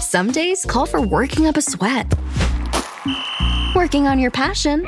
Some days call for working up a sweat, working on your passion,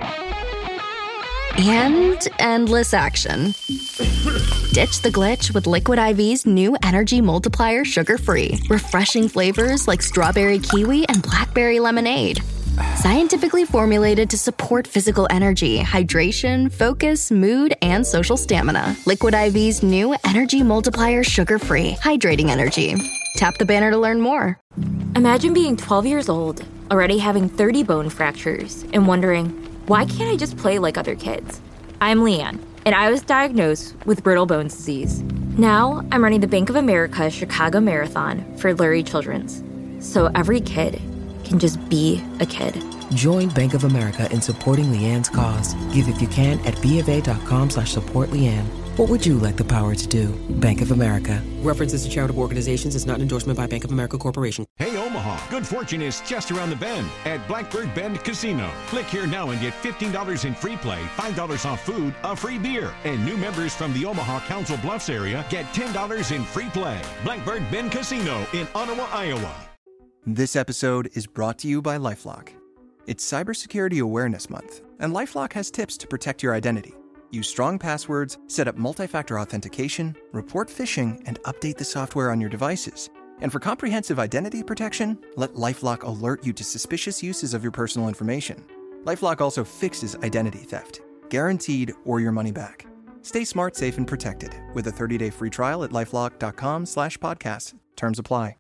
and endless action. Ditch the glitch with Liquid IV's new Energy Multiplier Sugar-Free. Refreshing flavors like strawberry kiwi and blackberry lemonade. Scientifically formulated to support physical energy, hydration, focus, mood, and social stamina. Liquid IV's new Energy Multiplier Sugar-Free. Hydrating energy. Tap the banner to learn more. Imagine being 12 years old, already having 30 bone fractures, and wondering, why can't I just play like other kids? I'm Leanne, and I was diagnosed with brittle bones disease. Now, I'm running the Bank of America Chicago Marathon for Lurie Children's, so every kid can just be a kid. Join Bank of America in supporting Leanne's cause. Give if you can at BofA.com/support Leanne. What would you like the power to do? Bank of America. References to charitable organizations is not an endorsement by Bank of America Corporation. Hey, Omaha, good fortune is just around the bend at Blackbird Bend Casino. Click here now and get $15 in free play, $5 off food, a free beer. And new members from the Omaha Council Bluffs area get $10 in free play. Blackbird Bend Casino in Ottawa, Iowa. This episode is brought to you by LifeLock. It's Cybersecurity Awareness Month, and LifeLock has tips to protect your identity. Use strong passwords, set up multi-factor authentication, report phishing, and update the software on your devices. And for comprehensive identity protection, let LifeLock alert you to suspicious uses of your personal information. LifeLock also fixes identity theft, guaranteed or your money back. Stay smart, safe, and protected with a 30-day free trial at LifeLock.com/podcast. Terms apply.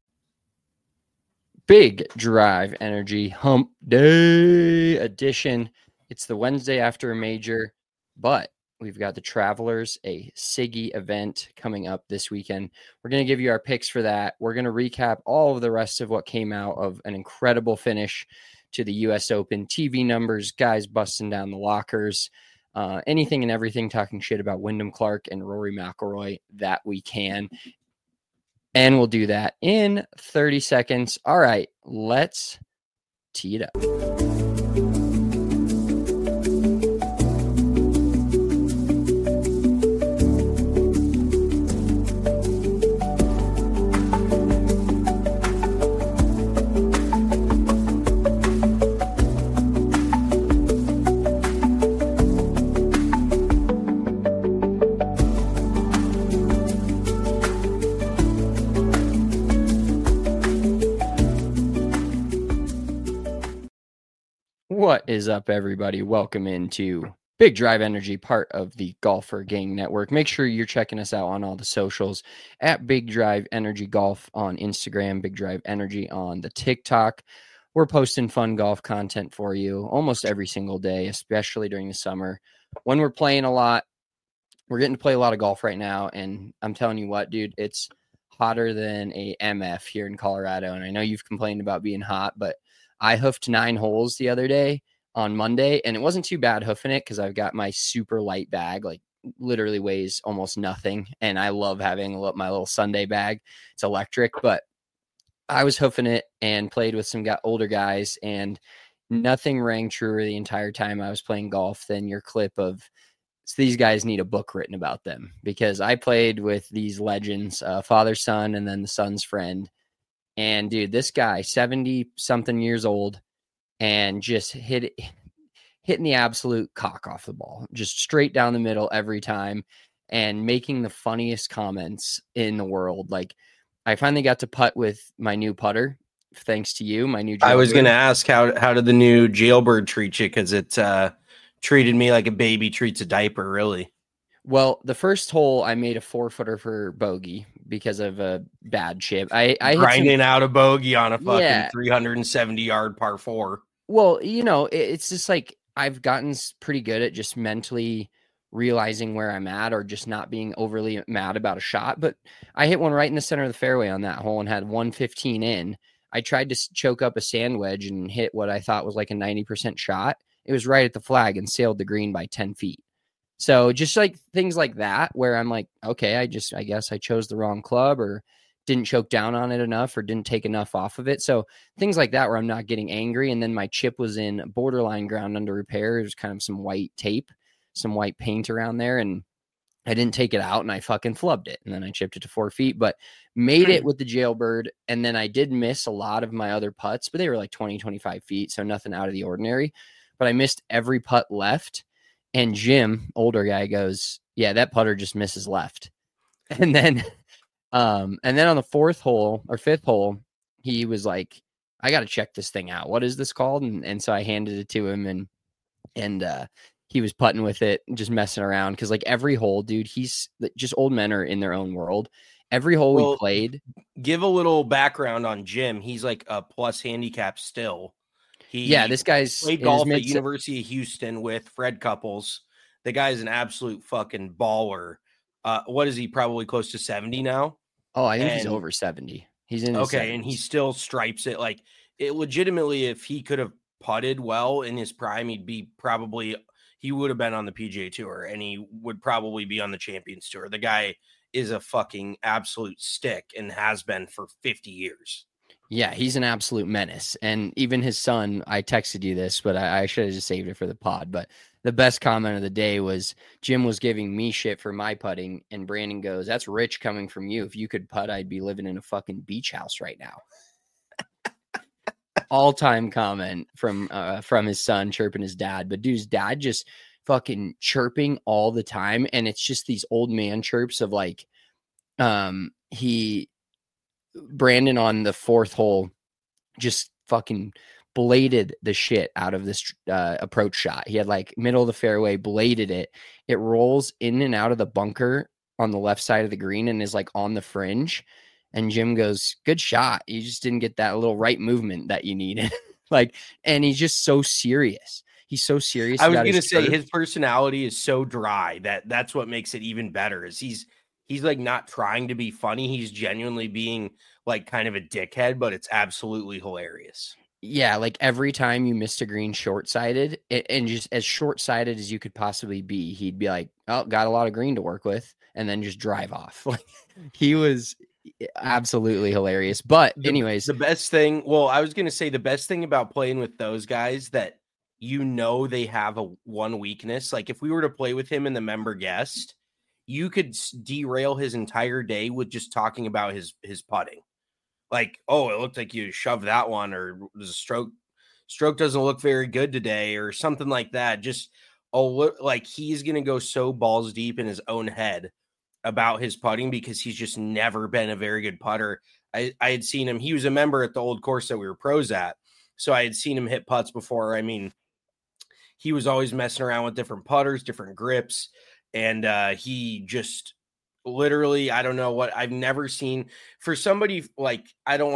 Big Drive Energy Hump Day edition. It's the Wednesday after a major, but we've got the Travelers, a Siggy event coming up this weekend. We're going to give you our picks for that. We're going to recap all of the rest of what came out of an incredible finish to the U.S. Open. TV numbers, guys busting down the lockers, anything and everything, talking shit about Wyndham Clark and Rory McIlroy that we can. And we'll do that in 30 seconds. All right, let's tee it up. What is up, everybody? Welcome into Big Drive Energy, part of the Golfer Gang Network. Make sure you're checking us out on all the socials at Big Drive Energy Golf on Instagram, Big Drive Energy on the TikTok. We're posting fun golf content for you almost every single day, especially during the summer when we're playing a lot. We're getting to play a lot of golf right now, and I'm telling you what, dude, it's hotter than a MF here in Colorado. And I know you've complained about being hot, but I hoofed 9 holes the other day on Monday, and it wasn't too bad hoofing it because I've got my super light bag, like literally weighs almost nothing. And I love having my little Sunday bag. It's electric, but I was hoofing it and played with some older guys, and nothing rang truer the entire time I was playing golf than your clip of these guys need a book written about them, because I played with these legends, father, son, and then the son's friend. And dude, this guy, 70 something years old, and just hitting the absolute cock off the ball, just straight down the middle every time, and making the funniest comments in the world. Like, I finally got to putt with my new putter, thanks to you, my new jailbird. I was going to ask, how did the new jailbird treat you? Because it treated me like a baby treats a diaper, really. Well, the first hole, I made a 4-footer for bogey because of a bad chip. I grinding out a bogey on a fucking 370-yard par 4. Well, you know, it's just like I've gotten pretty good at just mentally realizing where I'm at, or just not being overly mad about a shot. But I hit one right in the center of the fairway on that hole and had 115 in. I tried to choke up a sand wedge and hit what I thought was like a 90% shot. It was right at the flag and sailed the green by 10 feet. So just like things like that, where I'm like, okay, I guess I chose the wrong club, or didn't choke down on it enough, or didn't take enough off of it. So things like that, where I'm not getting angry. And then my chip was in borderline ground under repair. There's kind of some white tape, some white paint around there. And I didn't take it out and I fucking flubbed it. And then I chipped it to 4 feet, but made it with the Jailbird. And then I did miss a lot of my other putts, but they were like 20, 25 feet. So nothing out of the ordinary, but I missed every putt left. And Jim, older guy, goes, yeah, that putter just misses left. And then on the 4th hole or 5th hole, he was like, I got to check this thing out. What is this called? And so I handed it to him and he was putting with it, just messing around. Because like every hole, dude, he's just old men are in their own world. Every hole we played. Give a little background on Jim. He's like a plus handicap still. This guy's played golf at University of Houston with Fred Couples. The guy's an absolute fucking baller. What is he? Probably close to 70 now. Oh, I think he's over 70. He's in his 70s. And he still stripes it. Like it legitimately, if he could have putted well in his prime, he would have been on the PGA Tour and he would probably be on the Champions Tour. The guy is a fucking absolute stick and has been for 50 years. Yeah, he's an absolute menace. And even his son, I texted you this, but I should have just saved it for the pod. But the best comment of the day was Jim was giving me shit for my putting. And Brandon goes, that's rich coming from you. If you could putt, I'd be living in a fucking beach house right now. All-time comment from his son chirping his dad. But dude's dad just fucking chirping all the time. And it's just these old man chirps of like, Brandon on the 4th hole just fucking bladed the shit out of this approach shot. He had like middle of the fairway, bladed it. It rolls in and out of the bunker on the left side of the green and is like on the fringe. And Jim goes, good shot. You just didn't get that little right movement that you needed. And he's just so serious. He's so serious. I was going to say his personality is so dry that's what makes it even better is he's like not trying to be funny. He's genuinely being like kind of a dickhead, but it's absolutely hilarious. Yeah. Like every time you missed a green short-sighted and just as short-sighted as you could possibly be, he'd be like, oh, got a lot of green to work with. And then just drive off. Like he was absolutely hilarious. But anyways, the best thing, I was going to say the best thing about playing with those guys that, they have one weakness. Like if we were to play with him in the member guest, you could derail his entire day with just talking about his putting. Like, oh, it looked like you shoved that one, or the stroke doesn't look very good today, or something like that. Just, like he's going to go so balls deep in his own head about his putting because he's just never been a very good putter. I had seen him. He was a member at the old course that we were pros at. So I had seen him hit putts before. I mean, he was always messing around with different putters, different grips. And he just literally, I don't know what I've never seen for somebody like,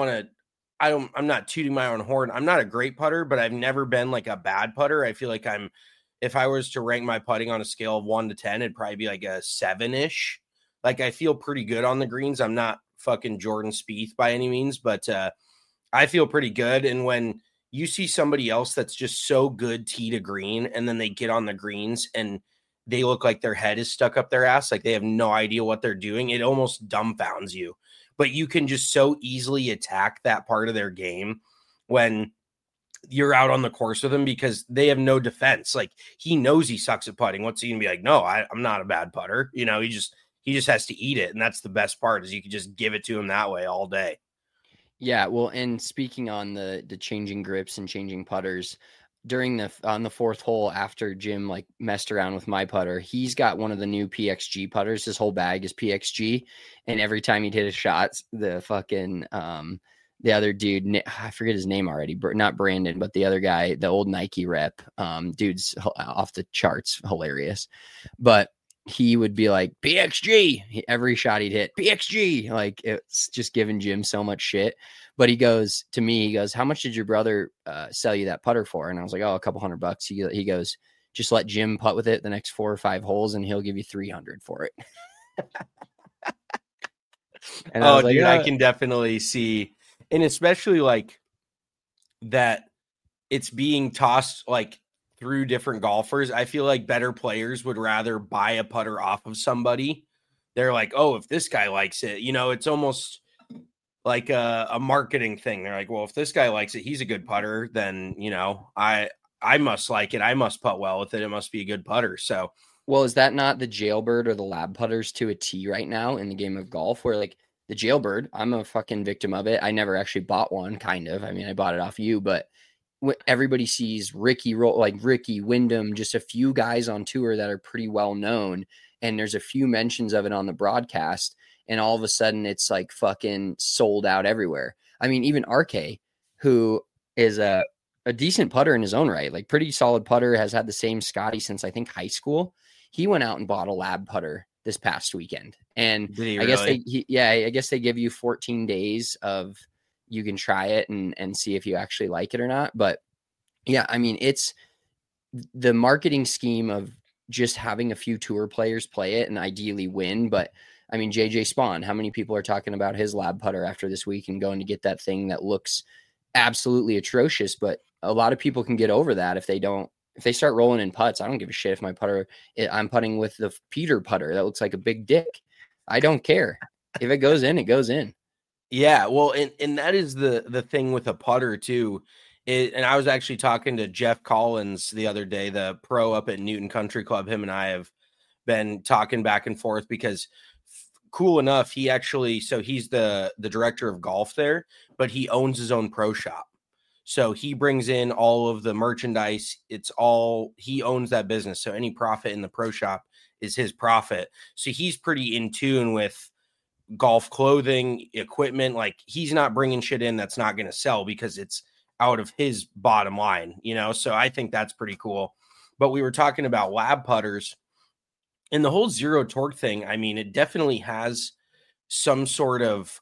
I'm not tooting my own horn. I'm not a great putter, but I've never been like a bad putter. I feel like if I was to rank my putting on a scale of 1 to 10, it'd probably be like a 7-ish. Like I feel pretty good on the greens. I'm not fucking Jordan Spieth by any means, but I feel pretty good. And when you see somebody else that's just so good tee to green, and then they get on the greens and they look like their head is stuck up their ass, like they have no idea what they're doing, it almost dumbfounds you. But you can just so easily attack that part of their game when you're out on the course with them because they have no defense. Like he knows he sucks at putting. What's he gonna be like? No, I'm not a bad putter. He just has to eat it. And that's the best part is you can just give it to him that way all day. Yeah, well, and speaking on the changing grips and changing putters, on the 4th hole after Jim like messed around with my putter, he's got one of the new PXG putters. His whole bag is PXG, and every time he'd hit a shot, the fucking the other dude, I forget his name already, not Brandon, but the other guy, the old Nike rep, dude's off the charts, hilarious, but he would be like, PXG, every shot he'd hit, PXG. Like it's just giving Jim so much shit. But he goes to me, he goes, how much did your brother sell you that putter for? And I was like, oh, a couple $100. He goes, just let Jim putt with it the next 4 or 5 holes and he'll give you 300 for it. And I dude, I can definitely see. And especially like that it's being tossed like through different golfers. I feel like better players would rather buy a putter off of somebody. They're like, oh, if this guy likes it, it's almost like a marketing thing. They're like, well, if this guy likes it, he's a good putter, then, I must like it. I must putt well with it. It must be a good putter. So Well, is that not the Jailbird or the Lab putters to a T right now in the game of golf? Where like the Jailbird, I'm a fucking victim of it. I never actually bought one, kind of. I mean, I bought it off you, but everybody sees Ricky Wyndham, just a few guys on tour that are pretty well known, and there's a few mentions of it on the broadcast, and all of a sudden it's like fucking sold out everywhere. I mean, even RK, who is a decent putter in his own right, like pretty solid putter, has had the same Scotty since I think high school. He went out and bought a Lab putter this past weekend, and I guess they give you 14 days of you can try it and see if you actually like it or not. But yeah, I mean, it's the marketing scheme of just having a few tour players play it and ideally win. But I mean, JJ Spawn, how many people are talking about his Lab putter after this week and going to get that thing that looks absolutely atrocious? But a lot of people can get over that if they start rolling in putts. I don't give a shit if I'm putting with the Peter putter that looks like a big dick. I don't care. If it goes in, it goes in. Yeah, well, and that is the thing with a putter too. And I was actually talking to Jeff Collins the other day, the pro up at Newton Country Club. Him and I have been talking back and forth because cool enough, he's the director of golf there, but he owns his own pro shop. So he brings in all of the merchandise. He owns that business. So any profit in the pro shop is his profit. So he's pretty in tune with golf clothing, equipment. Like he's not bringing shit in that's not going to sell because it's out of his bottom line, So I think that's pretty cool. But we were talking about Lab putters and the whole zero torque thing. I mean, it definitely has some sort of,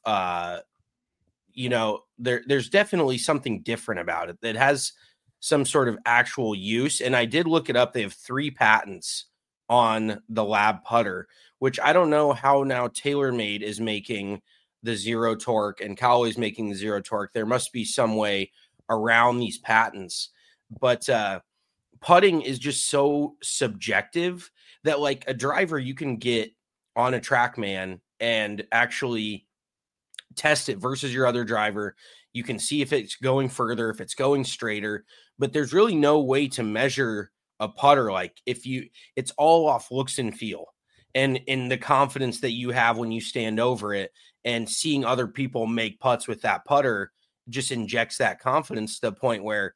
there's definitely something different about it that has some sort of actual use. And I did look it up. They have 3 patents on the Lab putter, which I don't know how now TaylorMade is making the zero torque and Callaway's making the zero torque. There must be some way around these patents, but putting is just so subjective that like a driver, you can get on a TrackMan and actually test it versus your other driver. You can see if it's going further, if it's going straighter, but there's really no way to measure a putter. Like it's all off looks and feel and in the confidence that you have when you stand over it, and seeing other people make putts with that putter just injects that confidence to the point where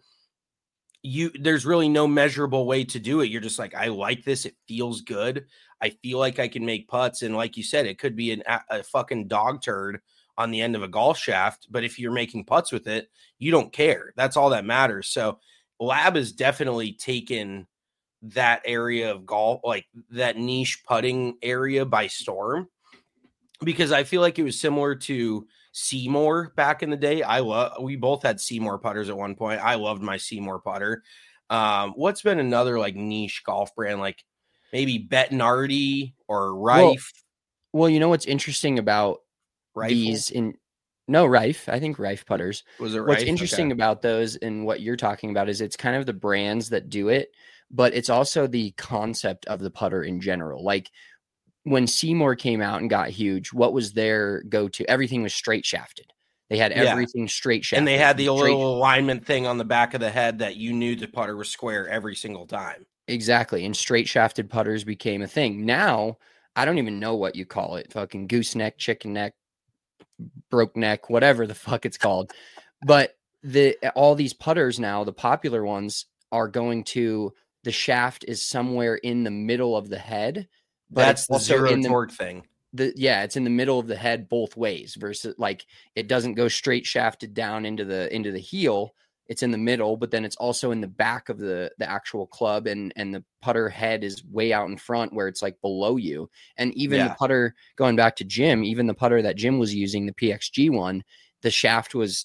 there's really no measurable way to do it. You're just like, I like this. It feels good. I feel like I can make putts. And like you said, it could be a fucking dog turd on the end of a golf shaft, but if you're making putts with it, you don't care. That's all that matters. So Lab has definitely taken that area of golf, like that niche putting area, by storm, because I feel like it was similar to Seymour back in the day. We both had Seymour putters at one point. I loved my Seymour putter. What's been another like niche golf brand, like maybe Bettinardi or Rife? Well, you know what's interesting about Rife? Rife. I think Rife putters. Was it Rife? What's interesting about those and what you're talking about is it's kind of the brands that do it, but it's also the concept of the putter in general. Like when Seymour came out and got huge, what was their go-to? Everything was straight shafted. They had everything straight shafted. And they had the little alignment thing on the back of the head that you knew the putter was square every single time. Exactly. And straight shafted putters became a thing. Now, I don't even know what you call it. Fucking gooseneck, chicken neck, broke neck, whatever the fuck it's called. But all these putters now, the popular ones, are going to, the shaft is somewhere in the middle of the head. But that's the zero torque thing. It's in the middle of the head both ways, versus like it doesn't go straight shafted down into the heel. It's in the middle, but then it's also in the back of the actual club, and the putter head is way out in front where it's like below you. And even the putter, going back to Jim, even the putter that Jim was using, the PXG one, the shaft was,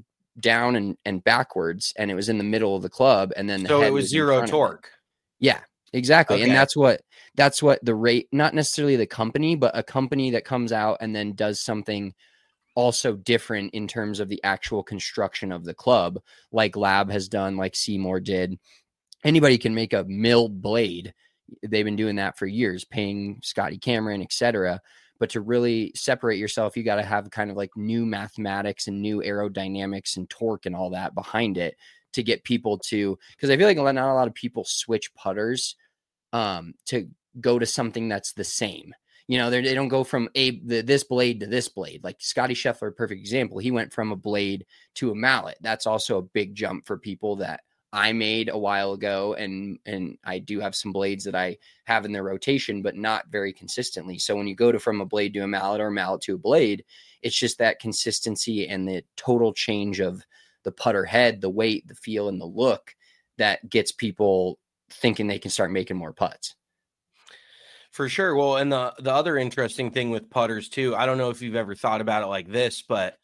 down and backwards, and it was in the middle of the club, and then it was zero torque. Yeah, exactly. Okay. And that's what the rate, not necessarily the company, but a company that comes out and then does something also different in terms of the actual construction of the club, like Lab has done, like Seymour did. Anybody can make a milled blade. They've been doing that for years, paying Scotty Cameron, etc. But to really separate yourself, you got to have kind of like new mathematics and new aerodynamics and torque and all that behind it to get people to, because I feel like not a lot of people switch putters to go to something that's the same. You know, they don't go from this blade to this blade. Like Scotty Scheffler, perfect example. He went from a blade to a mallet. That's also a big jump for people that I made a while ago. And I do have some blades that I have in their rotation, but not very consistently. So when you go from a blade to a mallet or a mallet to a blade, it's just that consistency and the total change of the putter head, the weight, the feel, and the look that gets people thinking they can start making more putts. For sure. Well, and the other interesting thing with putters too, I don't know if you've ever thought about it like this, but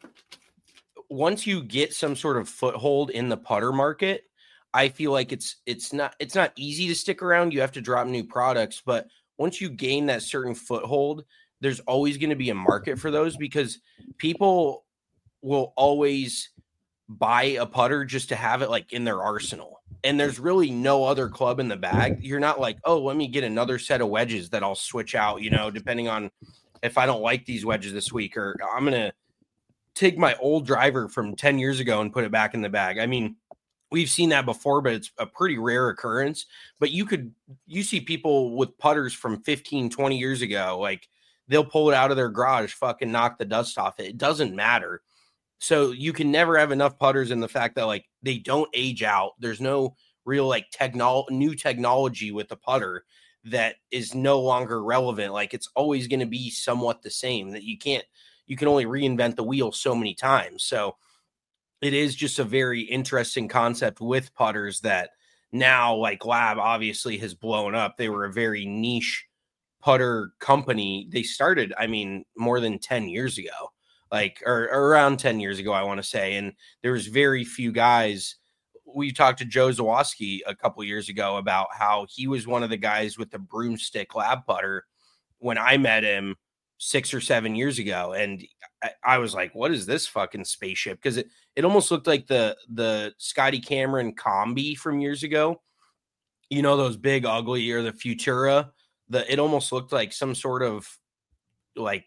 once you get some sort of foothold in the putter market, I feel like it's not easy to stick around. You have to drop new products, but once you gain that certain foothold, there's always going to be a market for those, because people will always buy a putter just to have it like in their arsenal. And there's really no other club in the bag. You're not like, oh, let me get another set of wedges that I'll switch out, you know, depending on if I don't like these wedges this week, or I'm going to take my old driver from 10 years ago and put it back in the bag. I mean, we've seen that before, but it's a pretty rare occurrence. But you see people with putters from 15, 20 years ago, like they'll pull it out of their garage, fucking knock the dust off it. It doesn't matter. So you can never have enough putters, in the fact that like they don't age out. There's no real like new technology with the putter that is no longer relevant. Like it's always going to be somewhat the same, that you can only reinvent the wheel so many times. So it is just a very interesting concept with putters that now, like Lab obviously has blown up. They were a very niche putter company. They started, I mean, more than 10 years ago. Or around 10 years ago, I want to say. And there was very few guys. We talked to Joe Zawoski a couple years ago about how he was one of the guys with the broomstick Lab putter when I met him 6 or 7 years ago. And I was like, what is this fucking spaceship? Because it almost looked like the Scotty Cameron Combi from years ago. You know, those big, ugly, or the Futura. It almost looked like some sort of like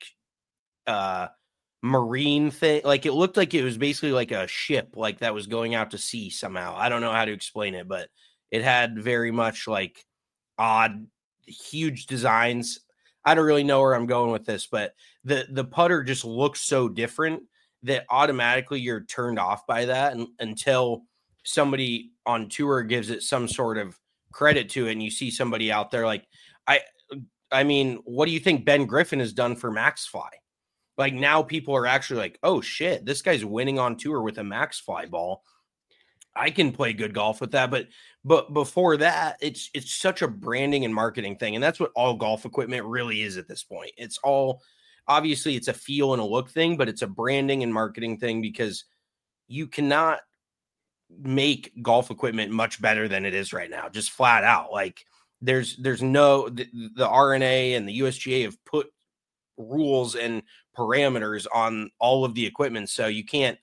marine thing. Like it looked like it was basically like a ship, like that was going out to sea somehow. I don't know how to explain it, but it had very much like odd, huge designs. I don't really know where I'm going with this, but the putter just looks so different that automatically you're turned off by that, until somebody on tour gives it some sort of credit to it, and you see somebody out there like I mean, what do you think Ben Griffin has done for MaxFly? Like now people are actually like, oh shit, this guy's winning on tour with a MaxFly ball. I can play good golf with that. But before that, it's such a branding and marketing thing. And that's what all golf equipment really is at this point. It's all, obviously it's a feel and a look thing, but it's a branding and marketing thing, because you cannot make golf equipment much better than it is right now. Just flat out. Like there's no, the RNA and the USGA have put rules and parameters on all of the equipment, so you can't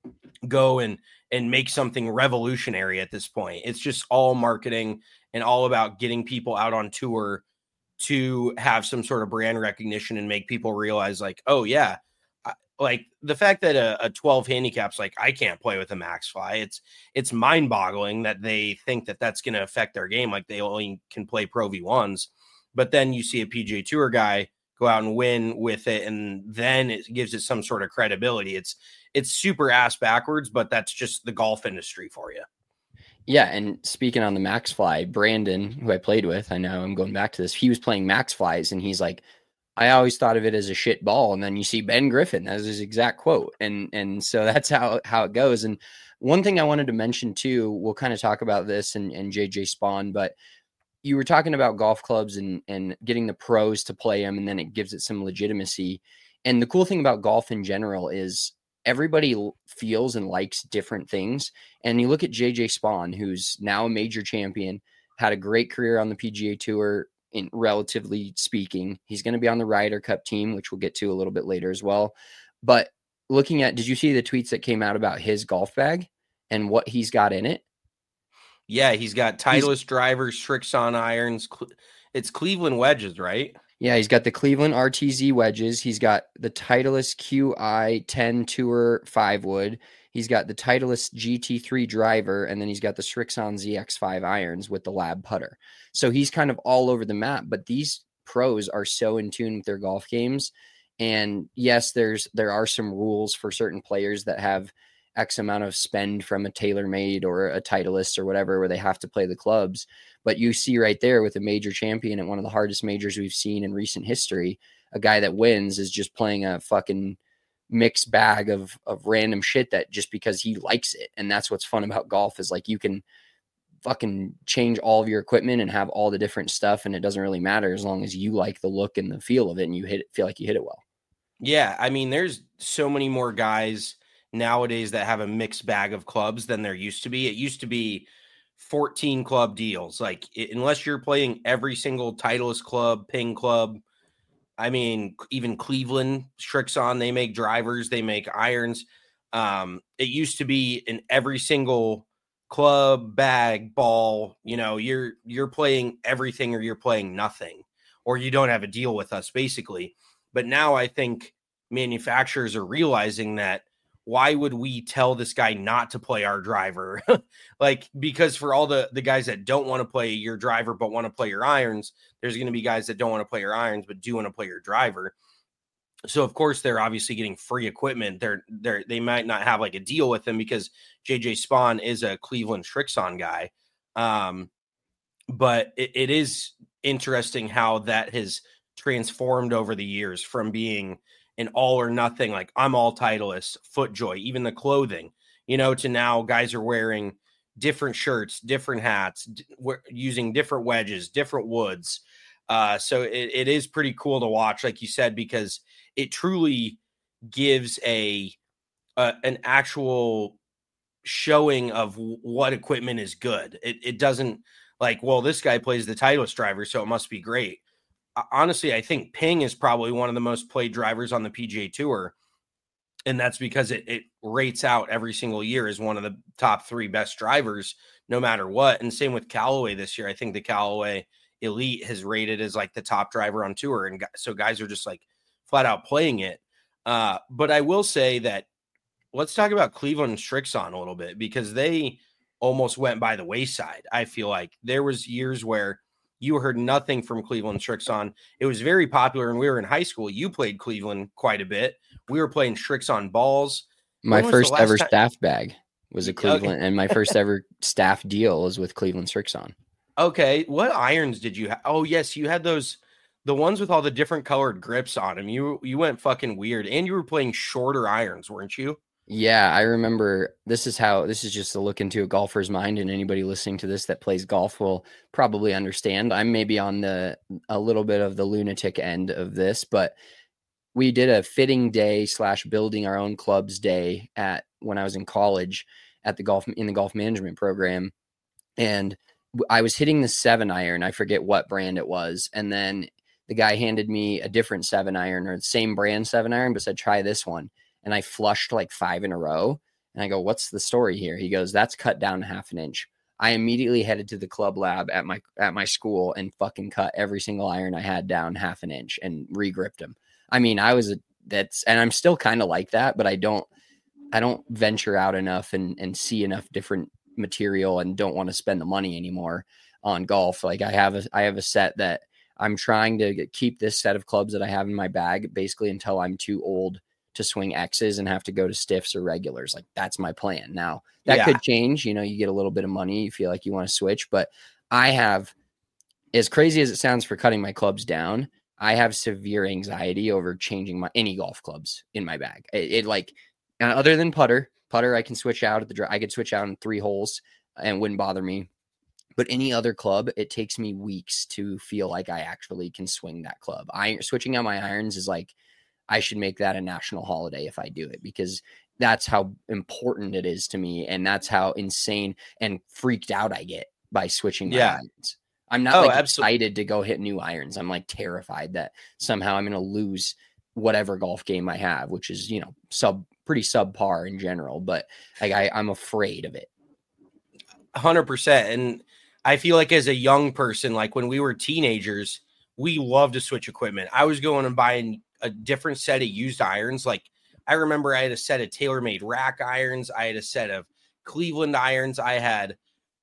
go and make something revolutionary at this point. It's just all marketing and all about getting people out on tour to have some sort of brand recognition and make people realize like, oh yeah, like the fact that a 12 handicap's like, I can't play with a MaxFly. It's mind boggling that they think that that's going to affect their game. Like they only can play Pro V1s, but then you see a PGA Tour guy go out and win with it, and then it gives it some sort of credibility. It's super ass backwards, but that's just the golf industry for you. Yeah, and speaking on the MaxFly, Brandon, who I played with, I know I'm going back to this, he was playing MaxFlies, and he's like, I always thought of it as a shit ball. And then you see Ben Griffin, that's his exact quote. And so that's how it goes. And one thing I wanted to mention too, we'll kind of talk about this and JJ Spawn, but you were talking about golf clubs and getting the pros to play them, and then it gives it some legitimacy. And the cool thing about golf in general is everybody feels and likes different things. And you look at JJ Spawn, who's now a major champion, had a great career on the PGA Tour, in relatively speaking. He's going to be on the Ryder Cup team, which we'll get to a little bit later as well. But looking at, did you see the tweets that came out about his golf bag and what he's got in it? Yeah, he's got Titleist drivers, Srixon irons. It's Cleveland wedges, right? Yeah, he's got the Cleveland RTZ wedges. He's got the Titleist QI 10 Tour 5 wood. He's got the Titleist GT3 driver, and then he's got the Srixon ZX5 irons with the lab putter. So he's kind of all over the map, but these pros are so in tune with their golf games. And yes, there are some rules for certain players that have X amount of spend from a TaylorMade or a Titleist or whatever, where they have to play the clubs. But you see right there with a major champion at one of the hardest majors we've seen in recent history, a guy that wins is just playing a fucking mixed bag of random shit that just because he likes it. And that's what's fun about golf is like you can fucking change all of your equipment and have all the different stuff, and it doesn't really matter as long as you like the look and the feel of it and you feel like you hit it well. Yeah, I mean, there's so many more guys nowadays that have a mixed bag of clubs than there used to be. It used to be 14 club deals. Like, unless you're playing every single Titleist club, Ping club, I mean, even Cleveland, Srixon, they make drivers, they make irons. It used to be in every single club, bag, ball, you know, you're playing everything or you're playing nothing, or you don't have a deal with us, basically. But now I think manufacturers are realizing that why would we tell this guy not to play our driver? Like, because for all the guys that don't want to play your driver but want to play your irons, there's going to be guys that don't want to play your irons but do want to play your driver. So of course they're obviously getting free equipment. They might not have like a deal with them because JJ Spawn is a Cleveland Srixon guy. But it is interesting how that has transformed over the years from being an all or nothing, like I'm all Titleist, FootJoy, even the clothing, you know, to now guys are wearing different shirts, different hats, using different wedges, different woods. So it is pretty cool to watch, like you said, because it truly gives an actual showing of what equipment is good. It doesn't like, well, this guy plays the Titleist driver, so it must be great. Honestly, I think Ping is probably one of the most played drivers on the PGA Tour, and that's because it rates out every single year as one of the top 3 best drivers, no matter what. And same with Callaway this year. I think the Callaway Elite has rated as like the top driver on tour, and so guys are just like flat out playing it. But I will say that let's talk about Cleveland Srixon a little bit, because they almost went by the wayside. I feel like there was years where you heard nothing from Cleveland Srixon. It was very popular, and we were in high school. You played Cleveland quite a bit. We were playing Srixon balls. My first ever staff bag was a Cleveland, and my first ever staff deal was with Cleveland Srixon. Okay, what irons did you have? Oh, yes, you had those, the ones with all the different colored grips on them. You went fucking weird, and you were playing shorter irons, weren't you? Yeah, I remember. This is just a look into a golfer's mind, and anybody listening to this that plays golf will probably understand. I'm maybe on a little bit of the lunatic end of this, but we did a fitting day / building our own clubs day when I was in college in the golf management program. And I was hitting the 7-iron. I forget what brand it was. And then the guy handed me a different 7-iron, or the same brand 7-iron, but said, try this one. And I flushed like 5 in a row. And I go, what's the story here? He goes, that's cut down 1/2 inch. I immediately headed to the club lab at my school and fucking cut every single iron I had down 1/2 inch and regripped them. I mean, and I'm still kind of like that, but I don't venture out enough and see enough different material and don't want to spend the money anymore on golf. Like I have a set that I'm trying to keep this set of clubs that I have in my bag basically until I'm too old to swing X's and have to go to stiffs or regulars. Like that's my plan. Now that could change, you know, you get a little bit of money, you feel like you want to switch, but I have, as crazy as it sounds for cutting my clubs down, I have severe anxiety over changing any golf clubs in my bag. It like, other than putter, I can switch out I could switch out in 3 holes and it wouldn't bother me. But any other club, it takes me weeks to feel like I actually can swing that club. Switching out my irons is like, I should make that a national holiday if I do it, because that's how important it is to me. And that's how insane and freaked out I get by switching my irons. I'm not excited to go hit new irons. I'm like terrified that somehow I'm going to lose whatever golf game I have, which is, you know, pretty subpar in general, but like I'm afraid of it. 100%. And I feel like as a young person, like when we were teenagers, we loved to switch equipment. I was going and buying a different set of used irons. Like I remember I had a set of TaylorMade rack irons. I had a set of Cleveland irons. I had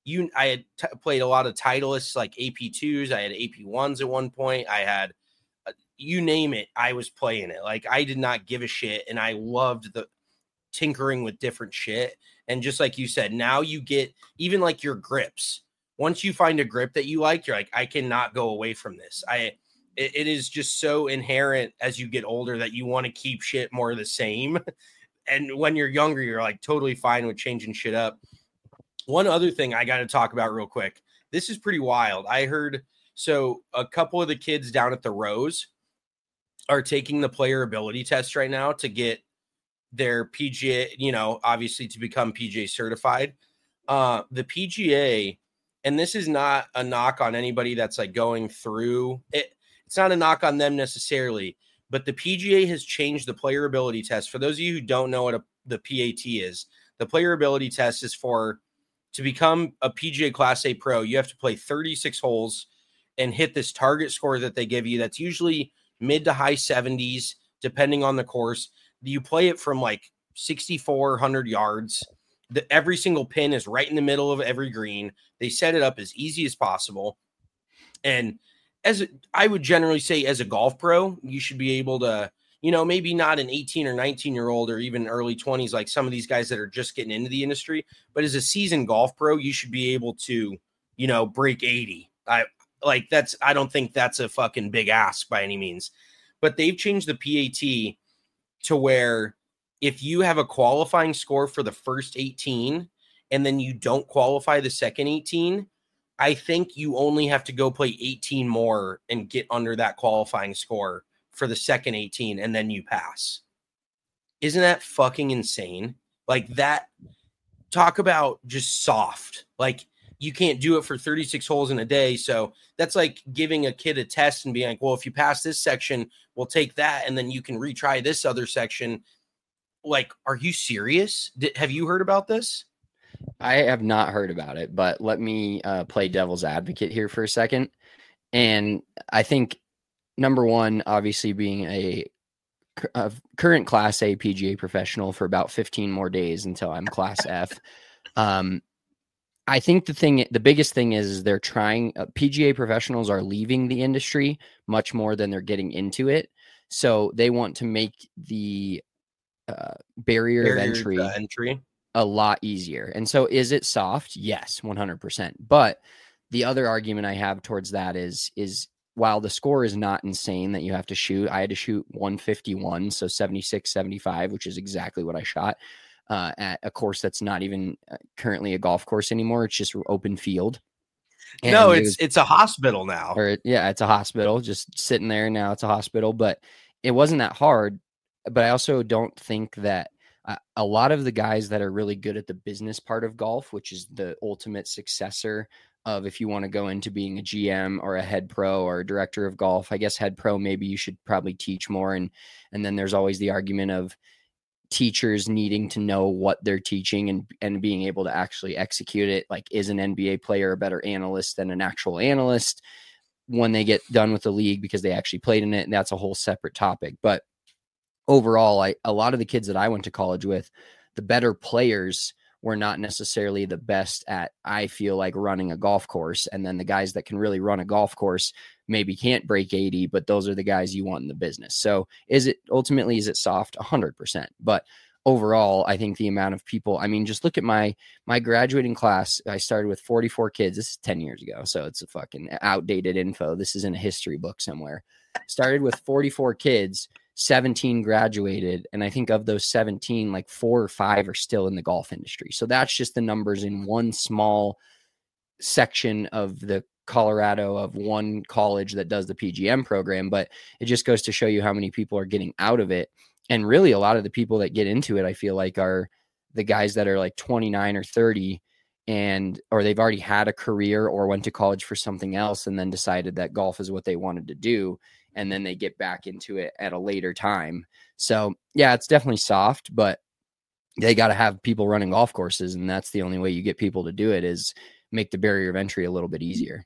played a lot of Titleists like AP2s. I had AP1s at one point. I had you name it. I was playing it. Like, I did not give a shit. And I loved the tinkering with different shit. And just like you said, now you get even like your grips. Once you find a grip that you like, you're like, I cannot go away from this. It is just so inherent as you get older that you want to keep shit more the same. And when you're younger, you're like totally fine with changing shit up. One other thing I got to talk about real quick. This is pretty wild. I heard, so a couple of the kids down at the Rose are taking the player ability test right now to get their PGA, obviously to become PGA certified. The PGA, and this is not a knock on anybody that's like going through it. It's not a knock on them necessarily, but the PGA has changed the player ability test. For those of you who don't know what the PAT is, the player ability test is to become a PGA Class A pro, you have to play 36 holes and hit this target score that they give you. That's usually mid to high 70s, depending on the course. You play it from like 6,400 yards. Every single pin is right in the middle of every green. They set it up as easy as possible. And I would generally say as a golf pro, you should be able to, maybe not an 18 or 19-year-old or even early 20s, like some of these guys that are just getting into the industry. But as a seasoned golf pro, you should be able to, break 80. I don't think that's a fucking big ask by any means. But they've changed the PAT to where if you have a qualifying score for the first 18 and then you don't qualify the second 18, I think you only have to go play 18 more and get under that qualifying score for the second 18, and then you pass. Isn't that fucking insane? Like that, talk about just soft. Like, you can't do it for 36 holes in a day. So that's like giving a kid a test and being like, well, if you pass this section, we'll take that. And then you can retry this other section. Like, are you serious? Have you heard about this? I have not heard about it, but let me play devil's advocate here for a second. And I think, number one, obviously being a current Class A PGA professional for about 15 more days until I'm Class F. I think the biggest thing is they're trying, PGA professionals are leaving the industry much more than they're getting into it. So they want to make the barrier of entry a lot easier. And so is it soft? Yes, 100%. But the other argument I have towards that is while the score is not insane that you have to shoot, I had to shoot 151, so 76, 75, which is exactly what I shot at a course that's not even currently a golf course anymore. It's just open field. And no, it's a hospital now. It's a hospital just sitting there. Now it's a hospital, but it wasn't that hard. But I also don't think that a lot of the guys that are really good at the business part of golf, which is the ultimate successor of if you want to go into being a GM or a head pro or a director of golf, I guess head pro, maybe you should probably teach more. And then there's always the argument of teachers needing to know what they're teaching and being able to actually execute it. Like, is an NBA player a better analyst than an actual analyst when they get done with the league because they actually played in it? And that's a whole separate topic. But overall, a lot of the kids that I went to college with, the better players were not necessarily the best at, I feel like, running a golf course. And then the guys that can really run a golf course maybe can't break 80, but those are the guys you want in the business. So is it soft? 100%. But overall, I think the amount of people, I mean, just look at my graduating class. I started with 44 kids. This is 10 years ago. So it's a fucking outdated info. This is in a history book somewhere. Started with 44 kids. 17 graduated, and I think of those 17, like 4 or 5 are still in the golf industry. So that's just the numbers in one small section of the Colorado of one college that does the PGM program. But it just goes to show you how many people are getting out of it. And really, a lot of the people that get into it, I feel like, are the guys that are like 29 or 30 or they've already had a career or went to college for something else and then decided that golf is what they wanted to do. And then they get back into it at a later time. So yeah, it's definitely soft, but they got to have people running golf courses. And that's the only way you get people to do it, is make the barrier of entry a little bit easier.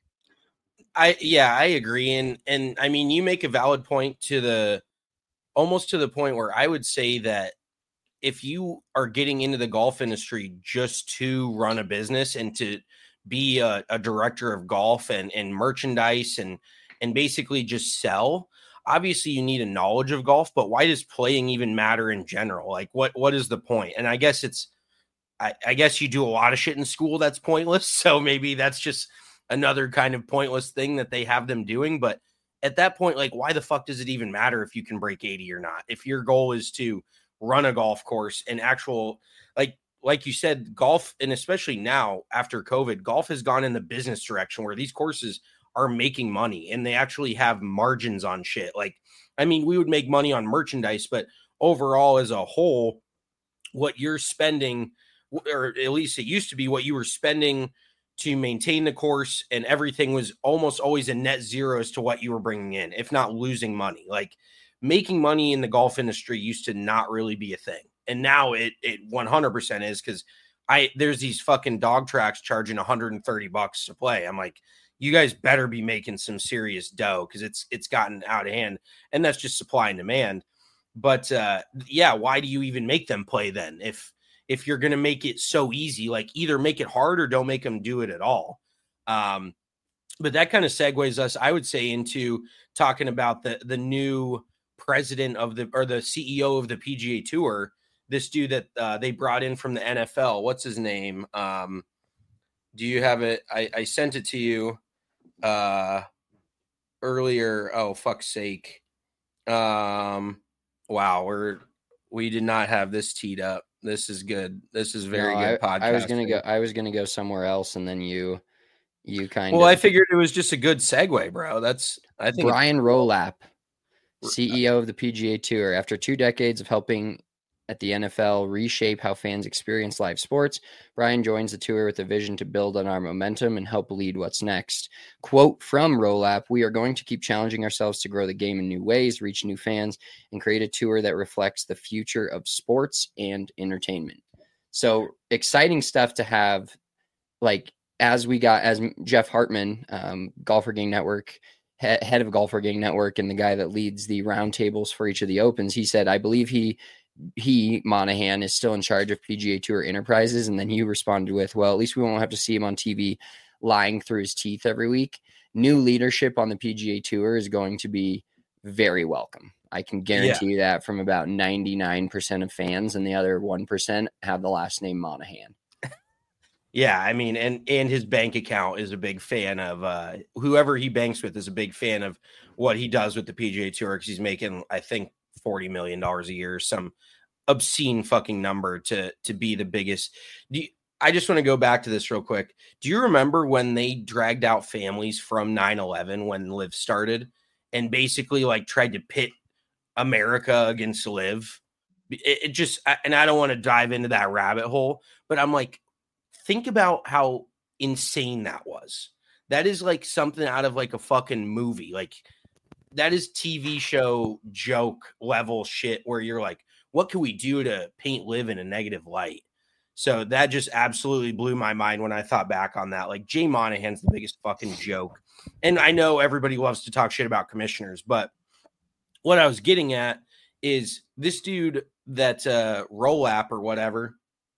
I agree. And I mean, you make a valid point almost to the point where I would say that if you are getting into the golf industry just to run a business and to be a director of golf and merchandise and basically just sell, obviously you need a knowledge of golf, but why does playing even matter in general? Like what is the point? And I guess I guess you do a lot of shit in school that's pointless. So maybe that's just another kind of pointless thing that they have them doing. But at that point, like, why the fuck does it even matter if you can break 80 or not? If your goal is to run a golf course and actual, like you said, golf, and especially now after COVID, golf has gone in the business direction where these courses are making money and they actually have margins on shit. Like, I mean, we would make money on merchandise, but overall as a whole, what you're spending, or at least it used to be what you were spending to maintain the course, and everything was almost always a net zero as to what you were bringing in, if not losing money. Like, making money in the golf industry used to not really be a thing. And now it 100% is, because there's these fucking dog tracks charging $130 to play. I'm like, you guys better be making some serious dough, because it's gotten out of hand, and that's just supply and demand. But yeah, why do you even make them play then? If you're going to make it so easy, like, either make it hard or don't make them do it at all. But that kind of segues us, I would say, into talking about the new president of the CEO of the PGA Tour, this dude that they brought in from the NFL. What's his name? Do you have it? I sent it to you earlier. Oh, fuck's sake. Wow, we did not have this teed up. This is good. This is very good podcast. I was gonna go somewhere else, and then you kind of. Well, I figured it was just a good segue, bro. I think Brian Rolap, CEO of the PGA Tour, after 2 decades of helping at the NFL reshape how fans experience live sports, Brian joins the tour with a vision to build on our momentum and help lead what's next. Quote from Rolap: "We are going to keep challenging ourselves to grow the game in new ways, reach new fans, and create a tour that reflects the future of sports and entertainment." So exciting stuff to have. Like, as Jeff Hartman, Golfer Gang Network, head of Golfer Gang Network, and the guy that leads the roundtables for each of the Opens, he said, I believe he, Monahan, is still in charge of PGA Tour Enterprises. And then he responded with, well, at least we won't have to see him on TV lying through his teeth every week. New leadership on the PGA Tour is going to be very welcome. I can guarantee you that from about 99% of fans, and the other 1% have the last name Monahan. Yeah, I mean, and his bank account is a big fan of whoever he banks with is a big fan of what he does with the PGA Tour, because he's making, I think, $40 million a year, some obscene fucking number to be the biggest. I just want to go back to this real quick. Do you remember when they dragged out families from 9/11 when LIV started, and basically like tried to pit America against LIV? It just, and I don't want to dive into that rabbit hole, but I'm like, think about how insane that was. That is like something out of like a fucking movie. Like, that is TV show joke level shit where you're like, what can we do to paint LIV in a negative light? So that just absolutely blew my mind when I thought back on that. Like, Jay Monahan's the biggest fucking joke. And I know everybody loves to talk shit about commissioners, but what I was getting at is this dude that Rolap or whatever,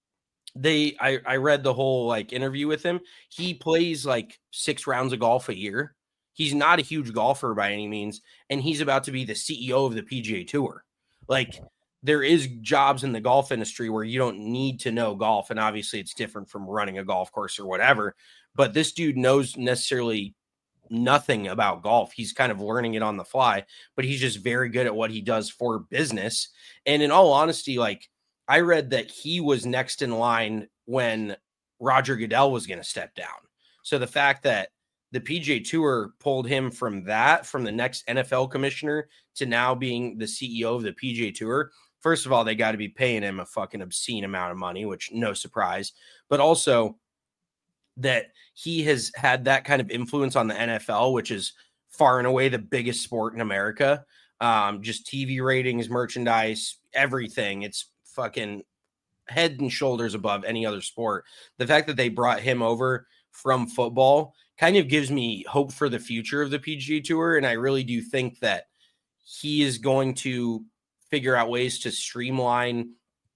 I read the whole like interview with him. He plays like 6 rounds of golf a year. He's not a huge golfer by any means, and he's about to be the CEO of the PGA Tour. Like, there is jobs in the golf industry where you don't need to know golf, and obviously it's different from running a golf course or whatever, but this dude knows necessarily nothing about golf. He's kind of learning it on the fly, but he's just very good at what he does for business. And in all honesty, like, I read that he was next in line when Roger Goodell was going to step down. So the fact that the PGA Tour pulled him from the next NFL commissioner to now being the CEO of the PGA Tour, first of all, they got to be paying him a fucking obscene amount of money, which no surprise, but also that he has had that kind of influence on the NFL, which is far and away the biggest sport in America. Just TV ratings, merchandise, everything. It's fucking head and shoulders above any other sport. The fact that they brought him over from football kind of gives me hope for the future of the PGA Tour. And I really do think that he is going to figure out ways to streamline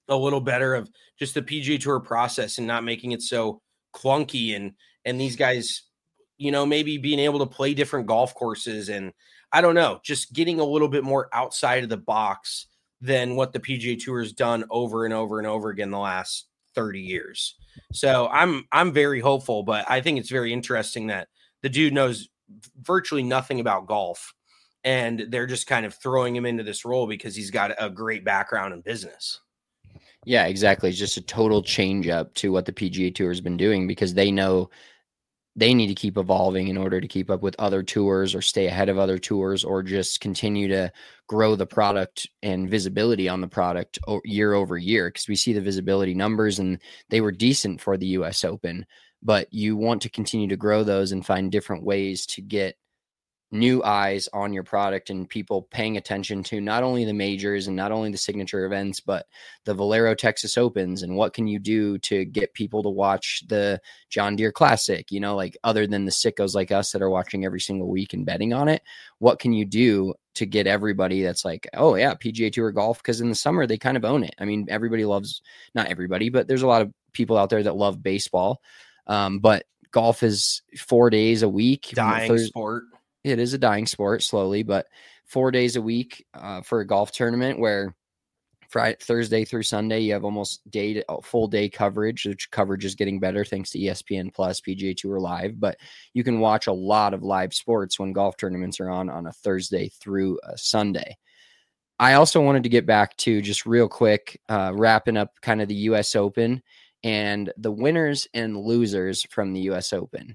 a little better of just the PGA Tour process and not making it so clunky, and these guys, maybe being able to play different golf courses, and I don't know, just getting a little bit more outside of the box than what the PGA Tour has done over and over and over again the last 30 years. So I'm very hopeful, but I think it's very interesting that the dude knows virtually nothing about golf, and they're just kind of throwing him into this role because he's got a great background in business. Yeah, exactly. It's just a total change up to what the PGA Tour has been doing, because they know they need to keep evolving in order to keep up with other tours or stay ahead of other tours, or just continue to grow the product and visibility on the product year over year. Because we see the visibility numbers and they were decent for the US Open, but you want to continue to grow those and find different ways to get new eyes on your product and people paying attention to not only the majors and not only the signature events, but the Valero Texas Opens. And what can you do to get people to watch the John Deere Classic, like other than the sickos like us that are watching every single week and betting on it? What can you do to get everybody that's like, oh yeah, PGA Tour golf? Because in the summer they kind of own it. I mean, everybody loves, not everybody, but there's a lot of people out there that love baseball. But golf is 4 days a week. Dying sport. It is a dying sport slowly, but 4 days a week for a golf tournament where Thursday through Sunday, you have almost full day coverage, which coverage is getting better thanks to ESPN Plus, PGA Tour Live. But you can watch a lot of live sports when golf tournaments are on a Thursday through a Sunday. I also wanted to get back to just real quick, wrapping up kind of the US Open and the winners and losers from the US Open.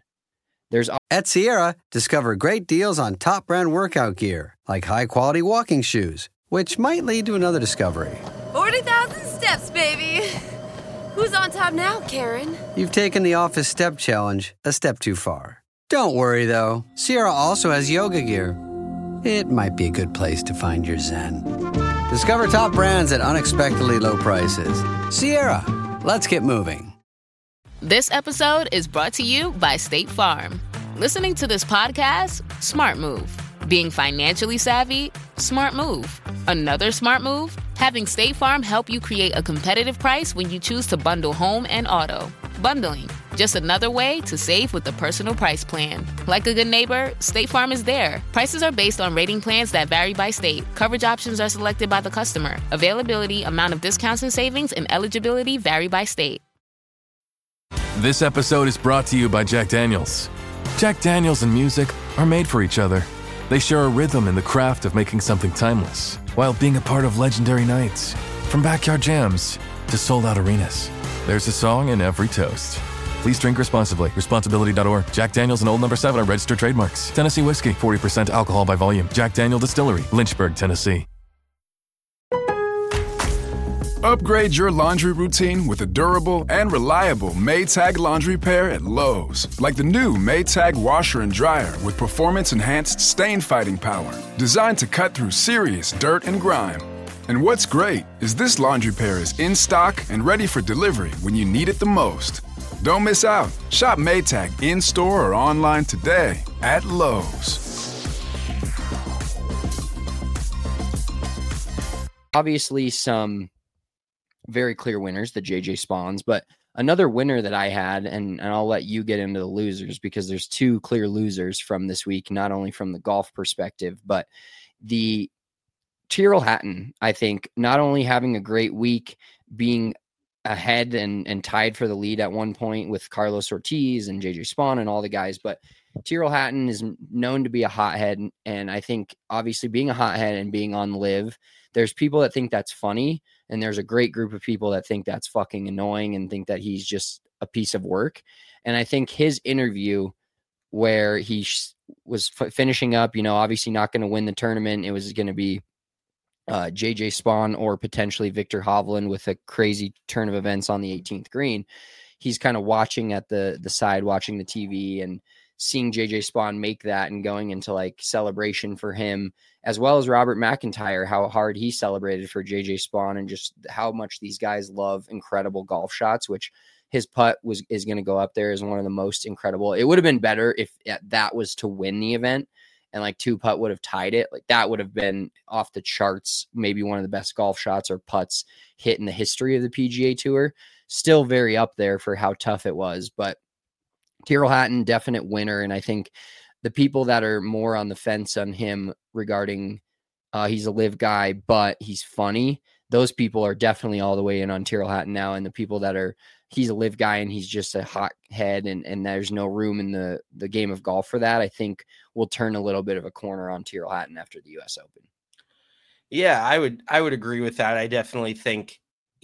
At Sierra, discover great deals on top brand workout gear, like high-quality walking shoes, which might lead to another discovery. 40,000 steps, baby. Who's on top now, Karen? You've taken the office step challenge a step too far. Don't worry, though. Sierra also has yoga gear. It might be a good place to find your zen. Discover top brands at unexpectedly low prices. Sierra, let's get moving. This episode is brought to you by State Farm. Listening to this podcast? Smart move. Being financially savvy? Smart move. Another smart move? Having State Farm help you create a competitive price when you choose to bundle home and auto. Bundling, just another way to save with the Personal Price Plan. Like a good neighbor, State Farm is there. Prices are based on rating plans that vary by state. Coverage options are selected by the customer. Availability, amount of discounts and savings, and eligibility vary by state. This episode is brought to you by Jack Daniels. Jack Daniels and music are made for each other. They share a rhythm in the craft of making something timeless, while being a part of legendary nights. From backyard jams to sold-out arenas, there's a song in every toast. Please drink responsibly. Responsibility.org. Jack Daniels and Old No. 7 are registered trademarks. Tennessee whiskey, 40% alcohol by volume. Jack Daniel Distillery, Lynchburg, Tennessee. Upgrade your laundry routine with a durable and reliable Maytag laundry pair at Lowe's. Like the new Maytag washer and dryer with performance-enhanced stain-fighting power. Designed to cut through serious dirt and grime. And what's great is this laundry pair is in stock and ready for delivery when you need it the most. Don't miss out. Shop Maytag in-store or online today at Lowe's. Obviously, some very clear winners, the JJ Spahns, but another winner that I had, and I'll let you get into the losers because there's two clear losers from this week, not only from the golf perspective, but the Tyrrell Hatton, I think, not only having a great week, being ahead and tied for the lead at one point with Carlos Ortiz and JJ Spahn and all the guys, but Tyrrell Hatton is known to be a hothead, and I think obviously being a hothead and being on Live, there's people that think that's funny, and there's a great group of people that think that's fucking annoying and think that he's just a piece of work. And I think his interview where he was finishing up, obviously not going to win the tournament. It was going to be JJ Spahn or potentially Victor Hovland with a crazy turn of events on the 18th green. He's kind of watching at the side, watching the TV and seeing JJ Spahn make that and going into like celebration for him, as well as Robert McIntyre, how hard he celebrated for JJ Spahn and just how much these guys love incredible golf shots, which his putt is going to go up there as one of the most incredible. It would have been better if that was to win the event and like 2-putt would have tied it. Like that would have been off the charts, maybe one of the best golf shots or putts hit in the history of the PGA Tour. Still very up there for how tough it was, but Tyrrell Hatton, definite winner. And I think the people that are more on the fence on him regarding he's a live guy, but he's funny, those people are definitely all the way in on Tyrrell Hatton now. And the people that are, he's a live guy and he's just a hot head and there's no room in the game of golf for that, I think will turn a little bit of a corner on Tyrrell Hatton after the US Open. Yeah, I would agree with that. I definitely think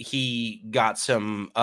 he got some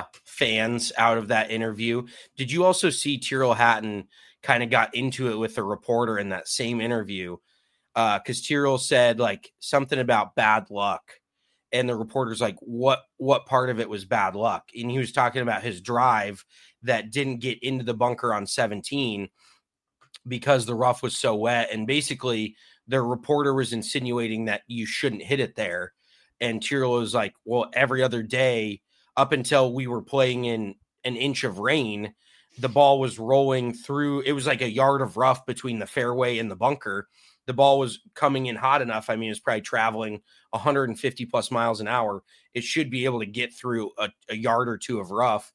fans out of that interview. Did you also see Tyrrell Hatton kind of got into it with a reporter in that same interview? Because Tyrrell said like something about bad luck. And the reporter's like, what part of it was bad luck? And he was talking about his drive that didn't get into the bunker on 17 because the rough was so wet. And basically the reporter was insinuating that you shouldn't hit it there. And Tyrrell was like, well, every other day up until we were playing in an inch of rain, the ball was rolling through. It was like a yard of rough between the fairway and the bunker. The ball was coming in hot enough. I mean, it's probably traveling 150 plus miles an hour. It should be able to get through a yard or two of rough.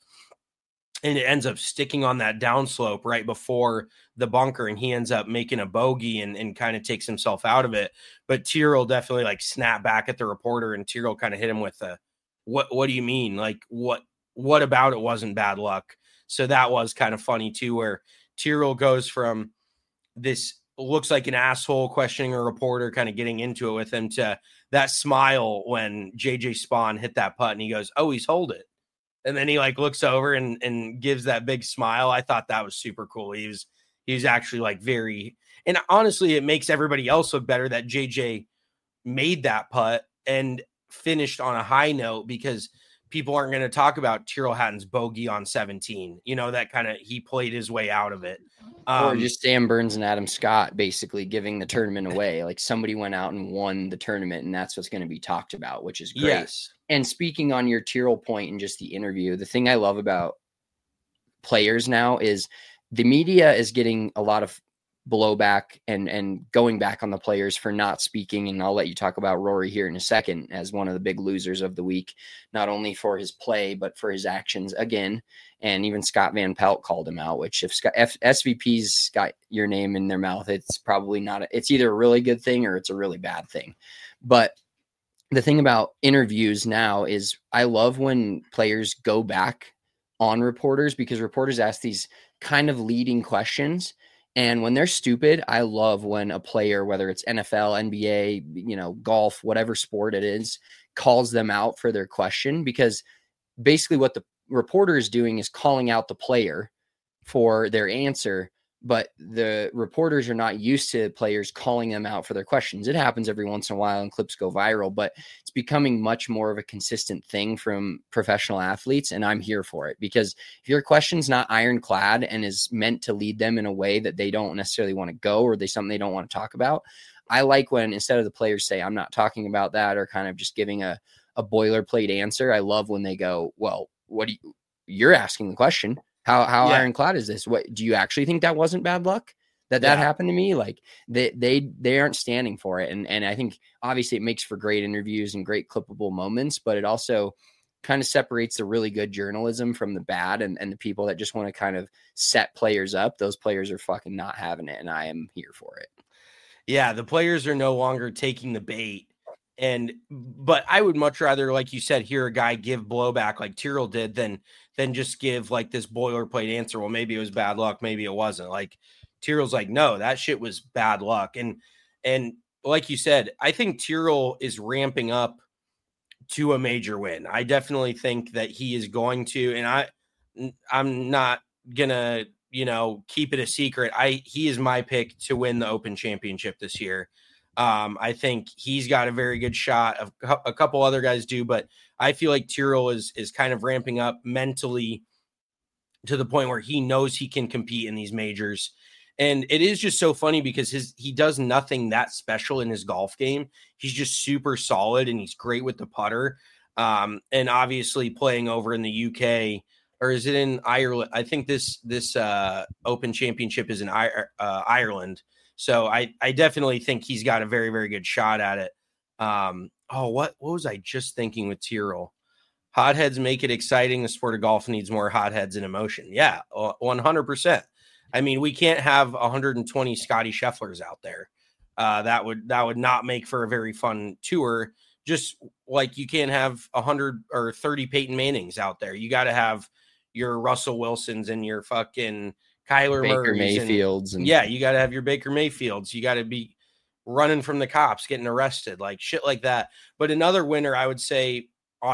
And it ends up sticking on that downslope right before the bunker. And he ends up making a bogey and kind of takes himself out of it. But Tyrrell definitely like snapped back at the reporter, and Tyrrell kind of hit him with what do you mean? Like what about it wasn't bad luck? So that was kind of funny too, where Tyrrell goes from this looks like an asshole questioning a reporter, kind of getting into it with him, to that smile when JJ Spawn hit that putt and he goes, oh, he's hold it. And then he like looks over and gives that big smile. I thought that was super cool. He was actually like very, and honestly, it makes everybody else look better that JJ made that putt and finished on a high note, because people aren't going to talk about Tyrrell Hatton's bogey on 17. You know, that kind of, he played his way out of it. Or just Sam Burns and Adam Scott basically giving the tournament away. Like somebody went out and won the tournament, and that's what's going to be talked about, which is great. Yes. And speaking on your Tyrrell point and just the interview, the thing I love about players now is the media is getting a lot of blowback and going back on the players for not speaking. And I'll let you talk about Rory here in a second as one of the big losers of the week, not only for his play, but for his actions again. And even Scott Van Pelt called him out, which if SVP's got your name in their mouth, it's probably not, it's either a really good thing or it's a really bad thing. But the thing about interviews now is I love when players go back on reporters, because reporters ask these kind of leading questions. And when they're stupid, I love when a player, whether it's NFL, NBA, golf, whatever sport it is, calls them out for their question, because basically what the reporter is doing is calling out the player for their answer. But the reporters are not used to players calling them out for their questions. It happens every once in a while and clips go viral, but it's becoming much more of a consistent thing from professional athletes. And I'm here for it, because if your question's not ironclad and is meant to lead them in a way that they don't necessarily want to go, or something they don't want to talk about, I like when instead of the players say, I'm not talking about that, or kind of just giving a boilerplate answer, I love when they go, well, you're asking the question. How ironclad is this? What do you actually think that wasn't bad luck that happened to me? Like they aren't standing for it. And I think obviously it makes for great interviews and great clippable moments, but it also kind of separates the really good journalism from the bad, and the people that just want to kind of set players up. Those players are fucking not having it. And I am here for it. Yeah. The players are no longer taking the bait. But I would much rather, like you said, hear a guy give blowback like Tyrrell did than just give like this boilerplate answer. Well, maybe it was bad luck. Maybe it wasn't. Like Tyrrell's like, no, that shit was bad luck. And like you said, I think Tyrrell is ramping up to a major win. I definitely think that he is going to, and I'm not gonna, keep it a secret. He is my pick to win the Open Championship this year. I think he's got a very good shot. A couple other guys do, but I feel like Tyrrell is kind of ramping up mentally to the point where he knows he can compete in these majors. And it is just so funny because he does nothing that special in his golf game. He's just super solid and he's great with the putter. And obviously playing over in the UK, or is it in Ireland? I think this Open Championship is in Ireland. So I definitely think he's got a very, very good shot at it. What was I just thinking with Tyrrell? Hotheads make it exciting. The sport of golf needs more hotheads and emotion. Yeah, 100%. I mean, we can't have 120 Scotty Schefflers out there. That would not make for a very fun tour. Just like you can't have 100 or 30 Peyton Mannings out there. You got to have your Russell Wilsons and your fucking Kyler Baker Murrays Mayfields. You got to have your Baker Mayfields. You got to be running from the cops, getting arrested, like shit like that. But another winner, I would say,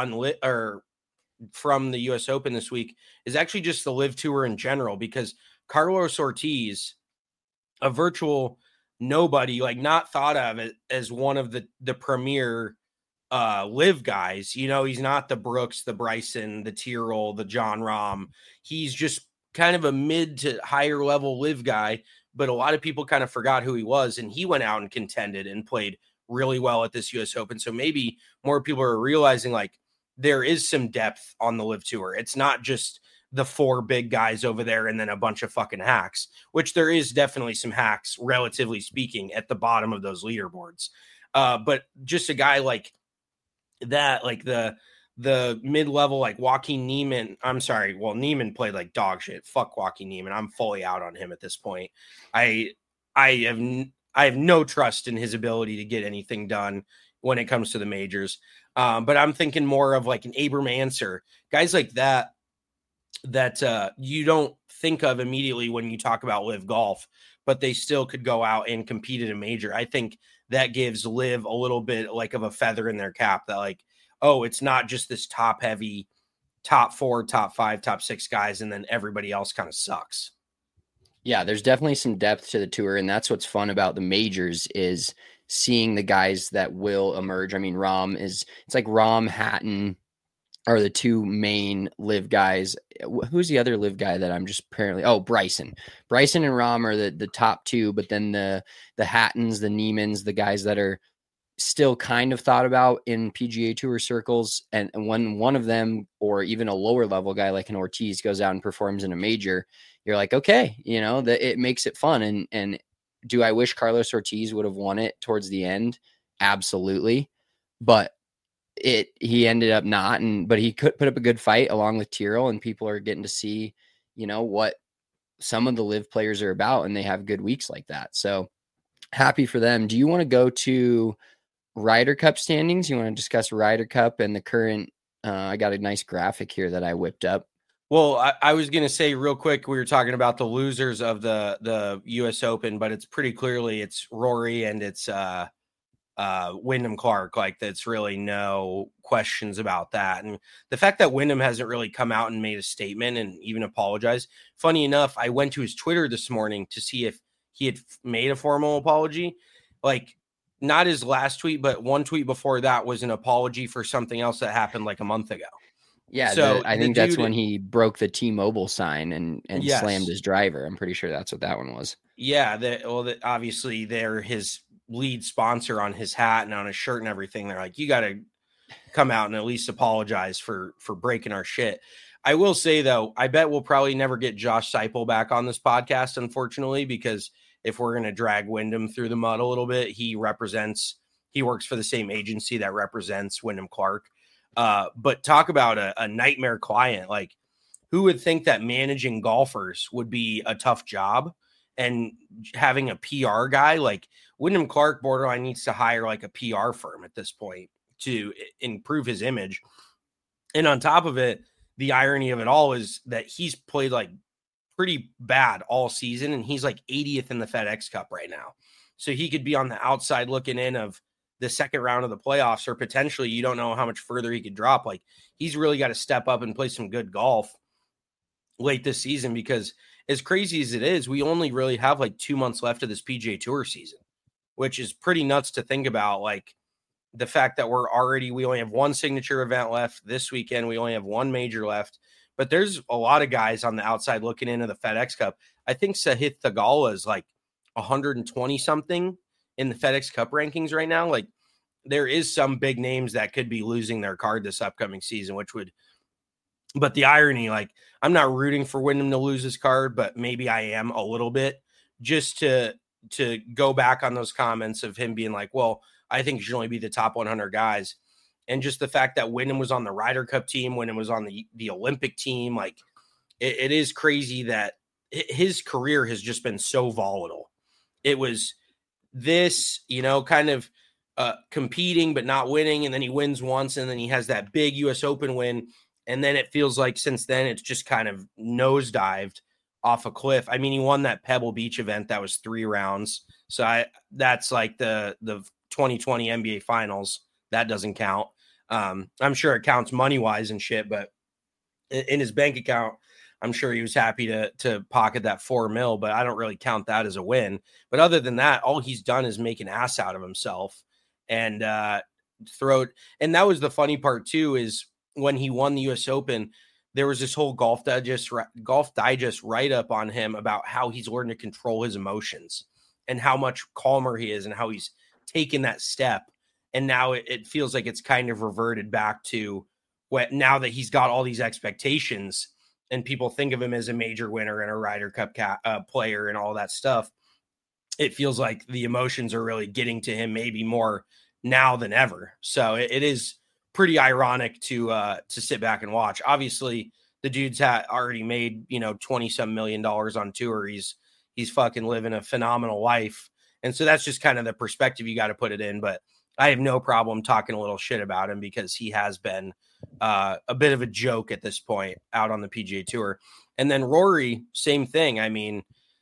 from the U.S. Open this week is actually just the Live Tour in general, because Carlos Ortiz, a virtual nobody, like not thought of as one of the premier Live guys. You know, he's not the Brooks, the Bryson, the Tyrrell, the John Rahm. He's just kind of a mid to higher level Live guy, but a lot of people kind of forgot who he was, and he went out and contended and played really well at this U.S. Open. So maybe more people are realizing like there is some depth on the Live Tour. It's not just the 4 big guys over there and then a bunch of fucking hacks, which there is definitely some hacks, relatively speaking, at the bottom of those leaderboards. But just a guy like that, like the mid-level, like Joaquin Niemann. I'm sorry. Well, Niemann played like dog shit. Fuck Joaquin Niemann. I'm fully out on him at this point. I have no trust in his ability to get anything done when it comes to the majors. But I'm thinking more of like an Abram Ancer, guys like that you don't think of immediately when you talk about Live Golf, but they still could go out and compete at a major. I think that gives Live a little bit like of a feather in their cap that like, oh, it's not just this top heavy top 4, top 5, top 6 guys, and then everybody else kind of sucks. Yeah, there's definitely some depth to the tour, and that's what's fun about the majors is seeing the guys that will emerge. I mean, it's like Rahm, Hatton are the 2 main Live guys. Who's the other Live guy that I'm just apparently? Oh, Bryson. Bryson and Rahm are the top 2, but then the Hattons, the Niemanns, the guys that are still kind of thought about in PGA Tour circles. And when one of them, or even a lower level guy like an Ortiz, goes out and performs in a major, you're like, okay, you know, that it makes it fun. And do I wish Carlos Ortiz would have won it towards the end? Absolutely. But he ended up not, but he could put up a good fight along with Tyrrell, and people are getting to see, you know, what some of the Live players are about, and they have good weeks like that. So happy for them. Do you want to go to Ryder Cup standings? You want to discuss Ryder Cup and the current, I got a nice graphic here that I whipped up. Well, I was going to say real quick, we were talking about the losers of the U.S. Open, but it's pretty clearly it's Rory and it's Wyndham Clark. Like, that's really no questions about that. And the fact that Wyndham hasn't really come out and made a statement and even apologized. Funny enough, I went to his Twitter this morning to see if he had made a formal apology. Like, not his last tweet, but one tweet before that was an apology for something else that happened like a month ago. Yeah, so I think that's when he broke the T-Mobile sign and yes, slammed his driver. I'm pretty sure that's what that one was. Yeah, obviously they're his lead sponsor on his hat and on his shirt and everything. They're like, you got to come out and at least apologize for breaking our shit. I will say, though, I bet we'll probably never get Josh Seipel back on this podcast, unfortunately, because if we're going to drag Wyndham through the mud a little bit, he works for the same agency that represents Wyndham Clark. But talk about a nightmare client. Like, who would think that managing golfers would be a tough job, and having a PR guy like Wyndham Clark borderline needs to hire like a PR firm at this point to improve his image. And on top of it, the irony of it all is that he's played like pretty bad all season, and he's like 80th in the FedEx Cup right now. So he could be on the outside looking in of the second round of the playoffs, or potentially you don't know how much further he could drop. Like, he's really got to step up and play some good golf late this season, because as crazy as it is, we only really have like 2 months left of this PGA Tour season, which is pretty nuts to think about. Like, the fact that we only have one signature event left this weekend. We only have one major left, but there's a lot of guys on the outside looking into the FedEx Cup. I think Sahith Theegala is like 120 something in the FedEx Cup rankings right now. Like, there is some big names that could be losing their card this upcoming season, but the irony, like, I'm not rooting for Wyndham to lose his card, but maybe I am a little bit, just to to go back on those comments of him being like, well, I think it should only be the top 100 guys. And just the fact that Wyndham was on the Ryder Cup team, Wyndham was on the Olympic team, like it is crazy that his career has just been so volatile. It was this, kind of competing but not winning, and then he wins once, and then he has that big US Open win, and then it feels like since then it's just kind of nosedived off a cliff. I mean, he won that Pebble Beach event that was 3 rounds, so that's like the 2020 NBA Finals. That doesn't count. I'm sure it counts money wise and shit, but in his bank account, I'm sure he was happy to pocket that $4 million, but I don't really count that as a win. But other than that, all he's done is make an ass out of himself and and that was the funny part too, is when he won the US Open, there was this whole Golf Digest write-up on him about how he's learned to control his emotions and how much calmer he is and how he's taken that step. And now it feels like it's kind of reverted back to now that he's got all these expectations and people think of him as a major winner and a Ryder Cup player and all that stuff. It feels like the emotions are really getting to him maybe more now than ever. So it is pretty ironic to sit back and watch. Obviously, the dude's already made, $20-some million on tour. He's fucking living a phenomenal life. And so that's just kind of the perspective you got to put it in. But I have no problem talking a little shit about him because he has been a bit of a joke at this point out on the PGA Tour. And then Rory, same thing. I mean,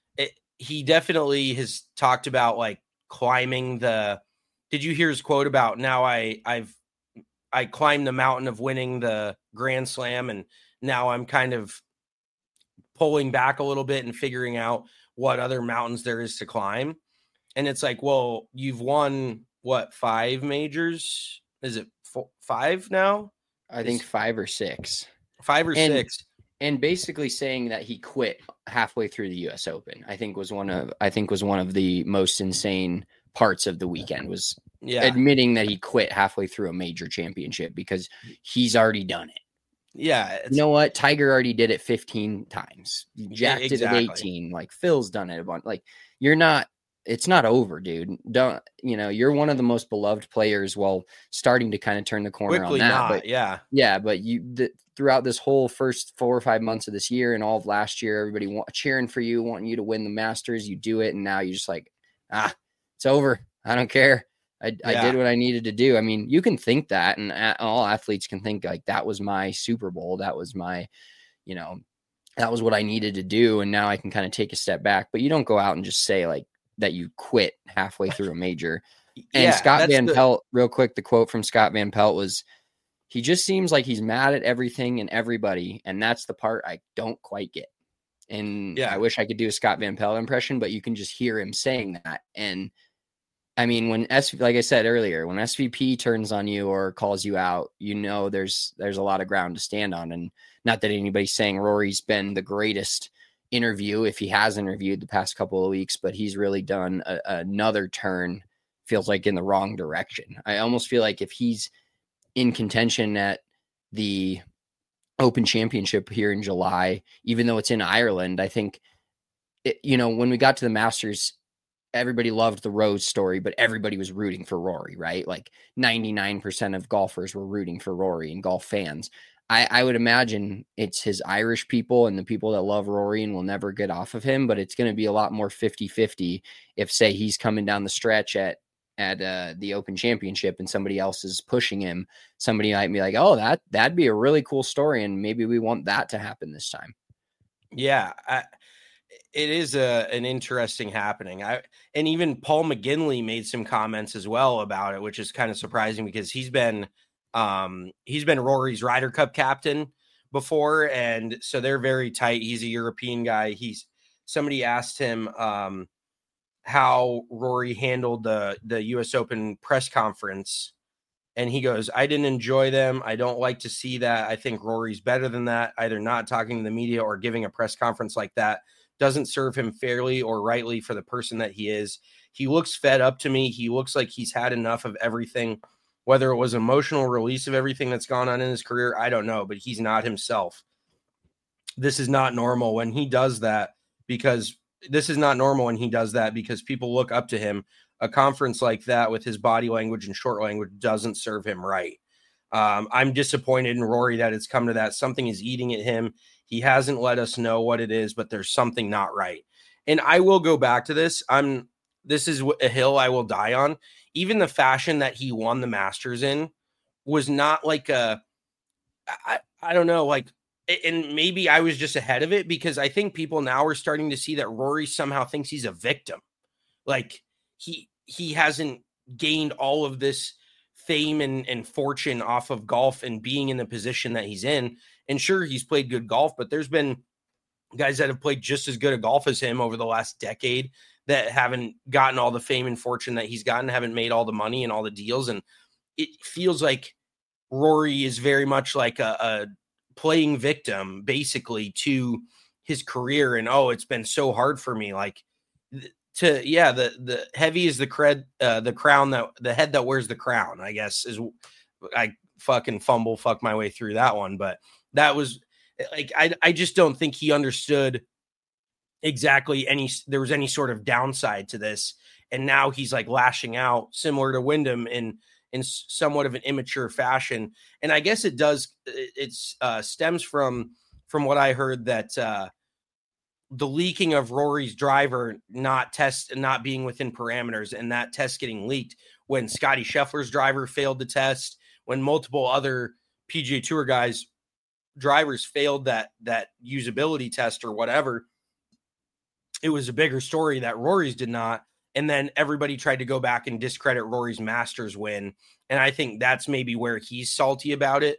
he definitely has talked about like climbing did you hear his quote about now I climbed the mountain of winning the Grand Slam and now I'm kind of pulling back a little bit and figuring out what other mountains there is to climb. And it's like, well, you've won what, 5 majors? Is it 5 now? I think 5 or 6. 5 or 6. And basically saying that he quit halfway through the US Open, I think was one of the most insane parts of the weekend, was admitting that he quit halfway through a major championship because he's already done it. Yeah. You know what? Tiger already did it 15 times. Jack did it 18. Like Phil's done it a bunch. Like it's not over, dude. You're one of the most beloved players while starting to kind of turn the corner Quickly on that. Not, but yeah. But throughout this whole first 4 or 5 months of this year and all of last year, everybody cheering for you, wanting you to win the Masters. You do it. And now you're just like, it's over. I don't care. I did what I needed to do. I mean, you can think that, and all athletes can think like that was my Super Bowl. That was my, that was what I needed to do. And now I can kind of take a step back, but you don't go out and just say like that you quit halfway through a major. And Scott Van Pelt, real quick, the quote from Scott Van Pelt was, he just seems like he's mad at everything and everybody. And that's the part I don't quite get. And I wish I could do a Scott Van Pelt impression, but you can just hear him saying that. And I mean, like I said earlier, when SVP turns on you or calls you out, there's a lot of ground to stand on. And not that anybody's saying Rory's been the greatest interview, if he has interviewed the past couple of weeks, but he's really done another turn, feels like in the wrong direction. I almost feel like if he's in contention at the Open Championship here in July, even though it's in Ireland, I think, when we got to the Masters, everybody loved the Rose story, but everybody was rooting for Rory, right? Like 99% of golfers were rooting for Rory and golf fans. I would imagine it's his Irish people and the people that love Rory and will never get off of him, but it's going to be a lot more 50-50 if, say, he's coming down the stretch at the Open Championship and somebody else is pushing him. Somebody might be like, oh, that'd be a really cool story, and maybe we want that to happen this time. Yeah, it is an interesting happening. And even Paul McGinley made some comments as well about it, which is kind of surprising because he's been Rory's Ryder Cup captain before, and so they're very tight. He's a European guy. Somebody asked him how Rory handled the US Open press conference, and he goes, I didn't enjoy them. I don't like to see that. I think Rory's better than that. Either not talking to the media or giving a press conference like that doesn't serve him fairly or rightly for the person that he is. He looks fed up to me. He looks like he's had enough of everything, whether it was emotional release of everything that's gone on in his career. I don't know, but he's not himself. This is not normal when he does that, because this is not normal when he does that because people look up to him. A conference like that with his body language and short language doesn't serve him right. I'm disappointed in Rory that it's come to that. Something is eating at him. He hasn't let us know what it is, but there's something not right. And I will go back to this. This is a hill I will die on. Even the fashion that he won the Masters in was not like I don't know, like, and maybe I was just ahead of it because I think people now are starting to see that Rory somehow thinks he's a victim. Like he hasn't gained all of this fame and fortune off of golf and being in the position that he's in. And sure, he's played good golf, but there's been guys that have played just as good a golf as him over the last decade that haven't gotten all the fame and fortune that he's gotten, haven't made all the money and all the deals. And it feels like Rory is very much like a playing victim basically to his career. And, oh, it's been so hard for me. Like the heavy is the crown that the head that wears the crown, I guess is, I fucking fuck my way through that one. But that was like, I just don't think he understood exactly there was any sort of downside to this. And now he's like lashing out similar to Wyndham in somewhat of an immature fashion. And I guess it stems from what I heard that the leaking of Rory's driver not being within parameters, and that test getting leaked when Scotty Scheffler's driver failed the test, when multiple other PGA Tour guys drivers failed that usability test or whatever. It was a bigger story that Rory's did not. And then everybody tried to go back and discredit Rory's Masters win. And I think that's maybe where he's salty about it.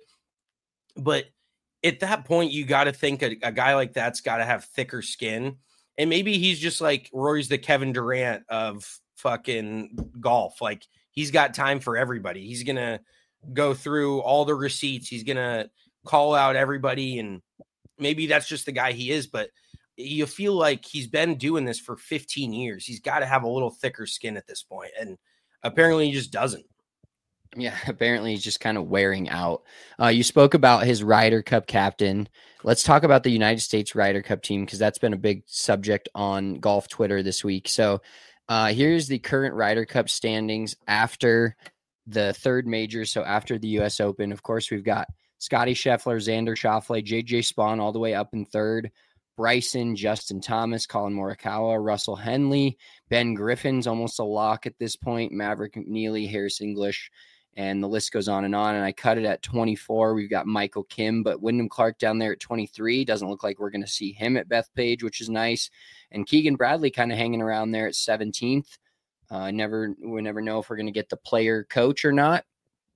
But at that point, you got to think a guy like that's got to have thicker skin. And maybe he's just like Rory's the Kevin Durant of fucking golf. Like, he's got time for everybody. He's going to go through all the receipts. He's going to call out everybody. And maybe that's just the guy he is. But you feel like he's been doing this for 15 years. He's got to have a little thicker skin at this point. And apparently he just doesn't. Yeah, apparently he's just kind of wearing out. You spoke about his Ryder Cup captain. Let's talk about the United States Ryder Cup team, because that's been a big subject on golf Twitter this week. So here's the current Ryder Cup standings after the third major. So after the U.S. Open, of course, we've got Scotty Scheffler, Xander Schauffele, J.J. Spaun all the way up in third. Bryson, Justin Thomas, Colin Morikawa, Russell Henley, Ben Griffin's almost a lock at this point, Maverick McNeely, Harris English, and the list goes on. And I cut it at 24. We've got Michael Kim, but Wyndham Clark down there at 23. Doesn't look like we're going to see him at Bethpage, which is nice. And Keegan Bradley kind of hanging around there at 17th. We never know if we're going to get the player coach or not.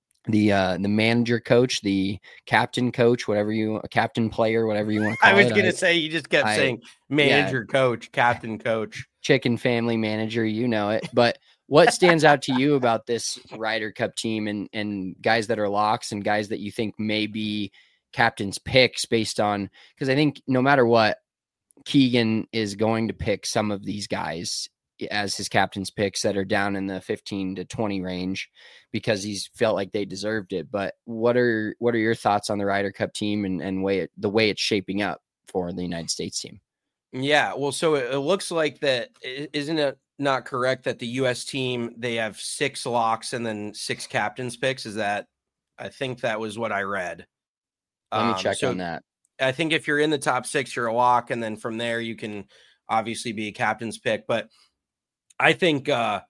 The manager coach, the captain coach, captain player, whatever you want to call it. I was going to say, you just kept saying manager, coach, captain coach, chicken family manager, you know it. But what stands out to you about this Ryder Cup team and guys that are locks and guys that you think may be captain's picks based on, because I think no matter what, Keegan is going to pick some of these guys as his captain's picks that are down in the 15 to 20 range because he's felt like they deserved it. But what are your thoughts on the Ryder Cup team and the way it's shaping up for the United States team? Yeah, well, so it looks like that, isn't it not correct that the U.S. team, they have 6 locks and then 6 captain's picks? I think that was what I read. Let me check on that. I think if you're in the top 6, you're a lock. And then from there, you can obviously be a captain's pick. But I think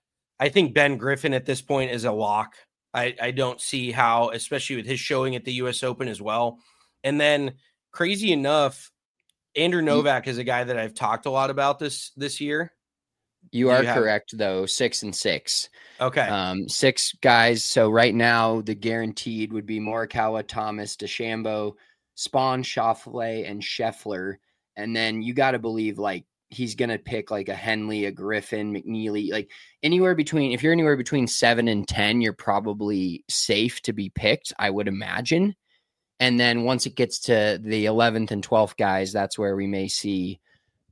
Ben Griffin at this point is a lock. I don't see how, especially with his showing at the U.S. Open as well. And then crazy enough, Andrew Novak is a guy that I've talked a lot about this year. You are correct, though. 6 and 6. Okay. 6 guys. So right now, the guaranteed would be Morikawa, Thomas, DeChambeau, Spaun, Schauffele, and Scheffler. And then you got to believe, like, he's going to pick like a Henley, a Griffin, McNeely, like if you're anywhere between 7 and 10, you're probably safe to be picked, I would imagine. And then once it gets to the 11th and 12th guys, that's where we may see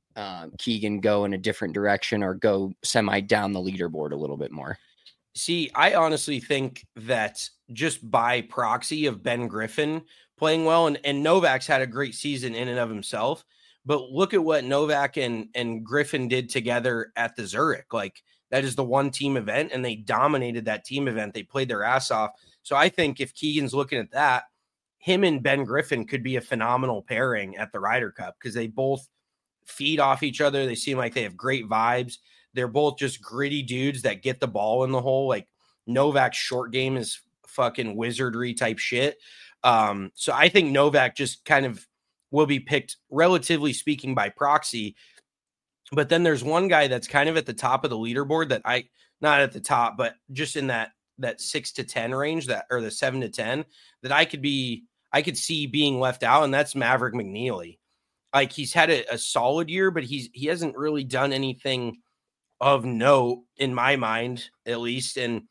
Keegan go in a different direction or go semi down the leaderboard a little bit more. See, I honestly think that just by proxy of Ben Griffin playing well, and Novak's had a great season in and of himself, But look at what Novak and Griffin did together at the Zurich. Like, that is the one team event, and they dominated that team event. They played their ass off. So I think if Keegan's looking at that, him and Ben Griffin could be a phenomenal pairing at the Ryder Cup because they both feed off each other. They seem like they have great vibes. They're both just gritty dudes that get the ball in the hole. Like, Novak's short game is fucking wizardry type shit. So I think Novak just kind of will be picked, relatively speaking, by proxy. But then there's one guy that's kind of at the top of the leaderboard that not at the top, but just in that 6 to 10 range, or the 7 to 10, that I could see being left out. And that's Maverick McNeely. Like, he's had a solid year, but he hasn't really done anything of note in my mind, at least. And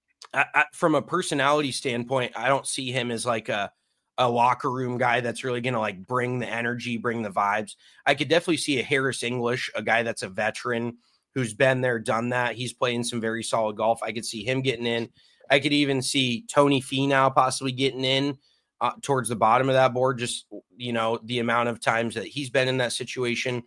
from a personality standpoint, I don't see him as like a locker room guy that's really going to like bring the energy, bring the vibes. I could definitely see a Harris English, a guy that's a veteran who's been there, done that. He's playing some very solid golf. I could see him getting in. I could even see Tony Finau possibly getting in towards the bottom of that board, just, the amount of times that he's been in that situation.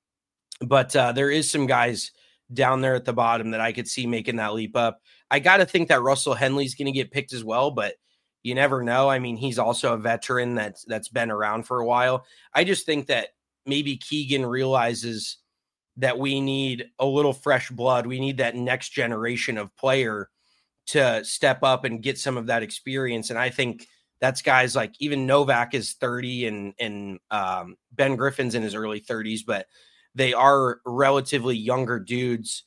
But there is some guys down there at the bottom that I could see making that leap up. I got to think that Russell Henley's going to get picked as well, but you never know. I mean, he's also a veteran that's been around for a while. I just think that maybe Keegan realizes that we need a little fresh blood. We need that next generation of player to step up and get some of that experience. And I think that's guys like, even Novak is 30 and Ben Griffin's in his early 30s, but they are relatively younger dudes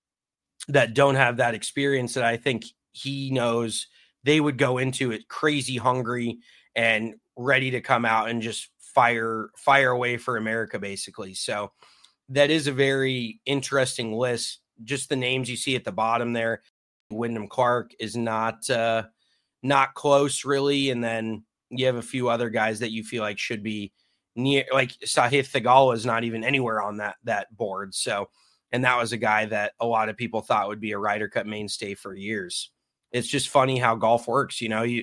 that don't have that experience that I think he knows they would go into it crazy hungry and ready to come out and just fire away for America, basically. So that is a very interesting list. Just the names you see at the bottom there. Wyndham Clark is not close, really. And then you have a few other guys that you feel like should be near, like Sahith Theegala is not even anywhere on that board. So, and that was a guy that a lot of people thought would be a Ryder Cup mainstay for years. It's just funny how golf works.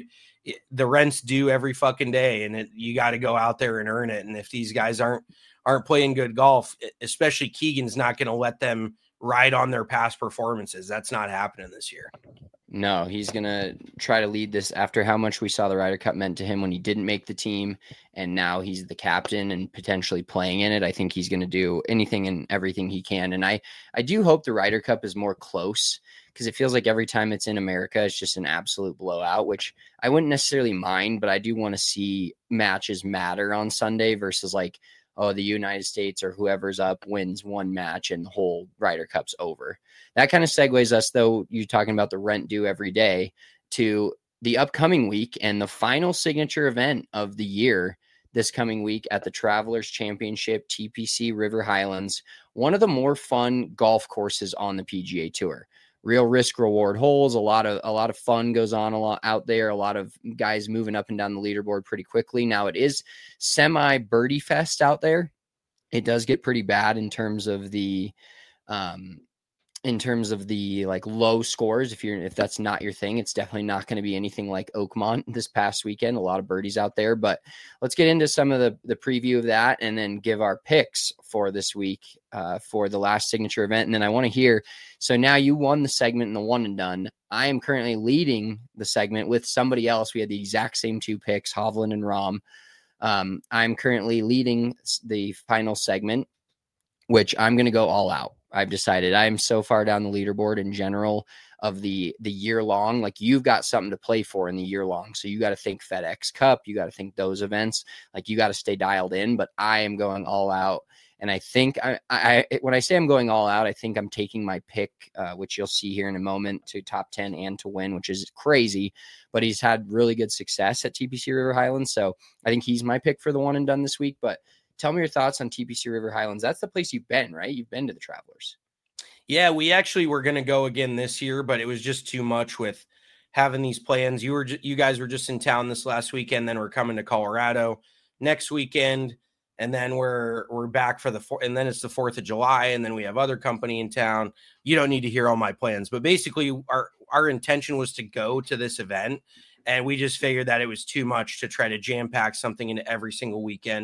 The rent's due every fucking day, and you got to go out there and earn it. And if these guys aren't playing good golf, especially Keegan's not going to let them ride on their past performances. That's not happening this year. No, he's going to try to lead this after how much we saw the Ryder Cup meant to him when he didn't make the team, and now he's the captain and potentially playing in it. I think he's going to do anything and everything he can. And I do hope the Ryder Cup is more close, because it feels like every time it's in America, it's just an absolute blowout, which I wouldn't necessarily mind, but I do want to see matches matter on Sunday versus like, oh, the United States or whoever's up wins one match and the whole Ryder Cup's over. That kind of segues us, though, you talking about the rent due every day, to the upcoming week and the final signature event of the year this coming week at the Travelers Championship, TPC River Highlands, one of the more fun golf courses on the PGA Tour. Real risk reward holes, a lot of fun goes on a lot out there, a lot of guys moving up and down the leaderboard pretty quickly. Now it is semi birdie fest out there. It does get pretty bad in terms of the like low scores. If that's not your thing, it's definitely not going to be anything like Oakmont this past weekend. A lot of birdies out there, but let's get into some of the preview of that and then give our picks for this week for the last signature event. And then I want to hear, so now you won the segment in the one and done. I am currently leading the segment with somebody else. We had the exact same two picks, Hovland and Rahm. I'm currently leading the final segment, which I'm going to go all out. I've decided I'm so far down the leaderboard in general of the year long. Like, you've got something to play for in the year long. So you got to think FedEx Cup. You got to think those events. Like, you got to stay dialed in, but I am going all out. And I think I when I say I'm going all out, I think I'm taking my pick, which you'll see here in a moment, to top 10 and to win, which is crazy, but he's had really good success at TPC River Highlands. So I think he's my pick for the one and done this week. But tell me your thoughts on TPC River Highlands. That's the place you've been, right? You've been to the Travelers. Yeah, we actually were going to go again this year, but it was just too much with having these plans. You guys were just in town this last weekend, then we're coming to Colorado next weekend, and then we're back for and then it's the 4th of July, and then we have other company in town. You don't need to hear all my plans, but basically our intention was to go to this event, and we just figured that it was too much to try to jam pack something into every single weekend.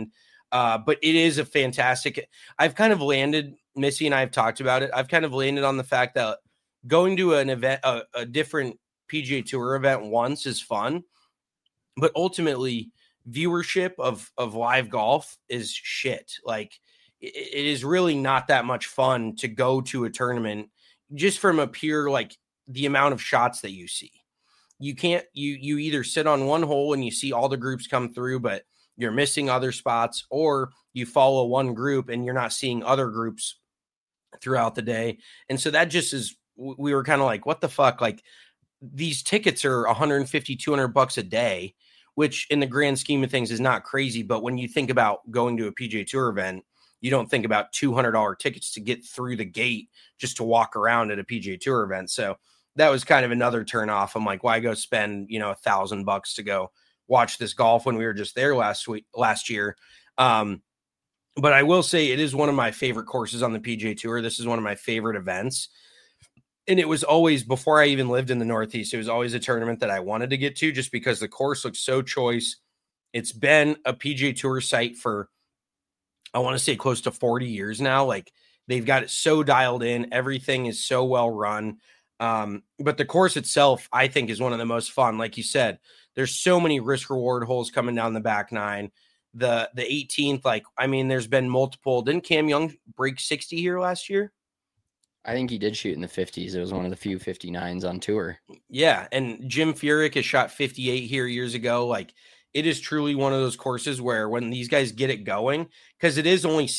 But it is a fantastic. I've kind of landed, Missy and I have talked about it. I've kind of landed on the fact that going to an event, a different PGA Tour event once is fun, but ultimately viewership of live golf is shit. Like it is really not that much fun to go to a tournament just from a pure, like the amount of shots that you see. You can't, you either sit on one hole and you see all the groups come through, but you're missing other spots, or you follow one group and you're not seeing other groups throughout the day. And so that just is, we were kind of like, what the fuck? Like these tickets are $150, $200 a day, which in the grand scheme of things is not crazy. But when you think about going to a PGA Tour event, you don't think about $200 tickets to get through the gate just to walk around at a PGA Tour event. So that was kind of another turn off. I'm like, why go spend, $1,000 to go watch this golf when we were just there last year. But I will say it is one of my favorite courses on the PGA Tour. This is one of my favorite events. And it was always, before I even lived in the Northeast, it was always a tournament that I wanted to get to just because the course looks so choice. It's been a PGA Tour site for, I want to say, close to 40 years now. Like they've got it so dialed in. Everything is so well run. But the course itself, I think, is one of the most fun. Like you said, there's so many risk reward holes coming down the back nine. The 18th, there's been multiple. Didn't Cam Young break 60 here last year? I think he did shoot in the 50s. It was one of the few 59s on tour. Yeah, and Jim Furyk has shot 58 here years ago. Like, it is truly one of those courses where when these guys get it going, because it is only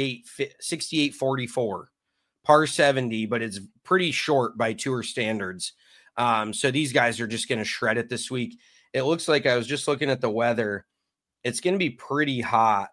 68-44, par 70, but it's pretty short by tour standards. So these guys are just going to shred it this week. It looks like, I was just looking at the weather, it's going to be pretty hot.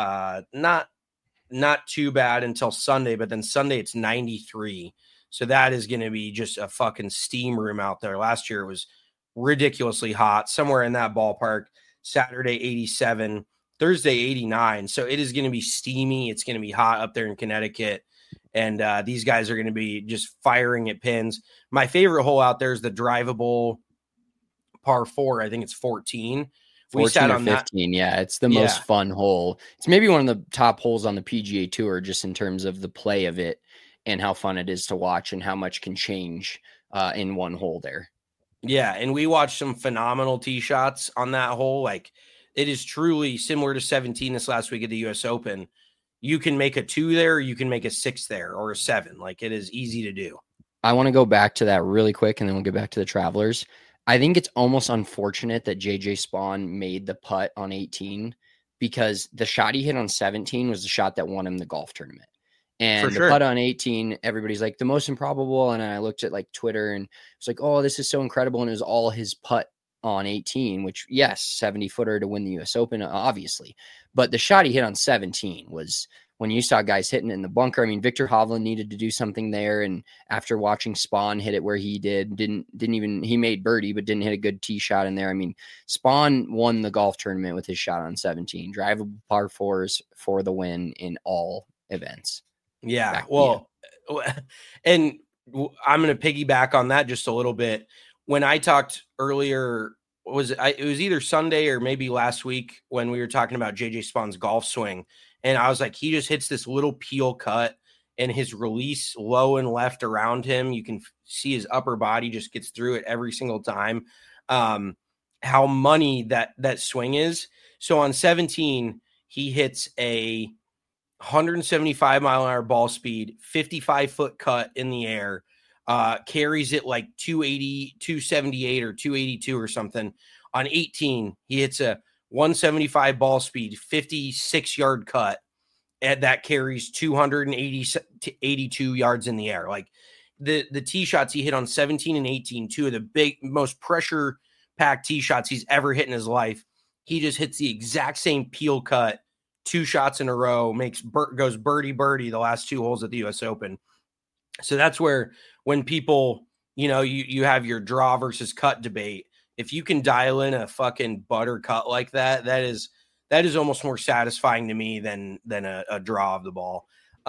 Not too bad until Sunday, but then Sunday it's 93. So that is going to be just a fucking steam room out there. Last year it was ridiculously hot, somewhere in that ballpark. Saturday 87, Thursday 89. So it is going to be steamy. It's going to be hot up there in Connecticut. And these guys are going to be just firing at pins. My favorite hole out there is the drivable par 4. I think it's 14. We sat on 15. That. Yeah, it's the most fun hole. It's maybe one of the top holes on the PGA Tour, just in terms of the play of it and how fun it is to watch and how much can change in one hole there. Yeah, and we watched some phenomenal tee shots on that hole. Like, it is truly similar to 17 this last week at the U.S. Open. You can make a 2 there, or you can make a 6 there, or a 7. Like, it is easy to do. I want to go back to that really quick, and then we'll get back to the Travelers. I think it's almost unfortunate that JJ Spaun made the putt on 18, because the shot he hit on 17 was the shot that won him the golf tournament. And the putt on 18, everybody's like, the most improbable. And I looked at like Twitter and it's like, oh, this is so incredible. And it was all his putt on 18, which, yes, 70-footer to win the U.S. Open, obviously. But the shot he hit on 17 was, when you saw guys hitting it in the bunker. I mean, Victor Hovland needed to do something there. And after watching Spaun hit it where he didn't even, he made birdie, but didn't hit a good tee shot in there. I mean, Spaun won the golf tournament with his shot on 17, drivable par 4s for the win in all events. Yeah. Well, and I'm going to piggyback on that just a little bit. When I talked earlier, it was either Sunday or maybe last week when we were talking about JJ Spaun's golf swing. And I was like, he just hits this little peel cut and his release low and left around him. You can see his upper body just gets through it every single time. How money that swing is. So on 17, he hits a 175 mile an hour ball speed, 55-foot cut in the air, carries it like 280, 278 or 282 or something. On 18, he hits a 175 ball speed, 56-yard cut, and that carries 280 to 82 yards in the air. Like the tee shots he hit on 17 and 18, two of the big, most pressure-packed tee shots he's ever hit in his life. He just hits the exact same peel cut, 2 shots in a row, goes birdie the last 2 holes at the U.S. Open. So that's where, when people, you have your draw versus cut debate, if you can dial in a fucking butter cut like that, that is almost more satisfying to me than a draw of the ball.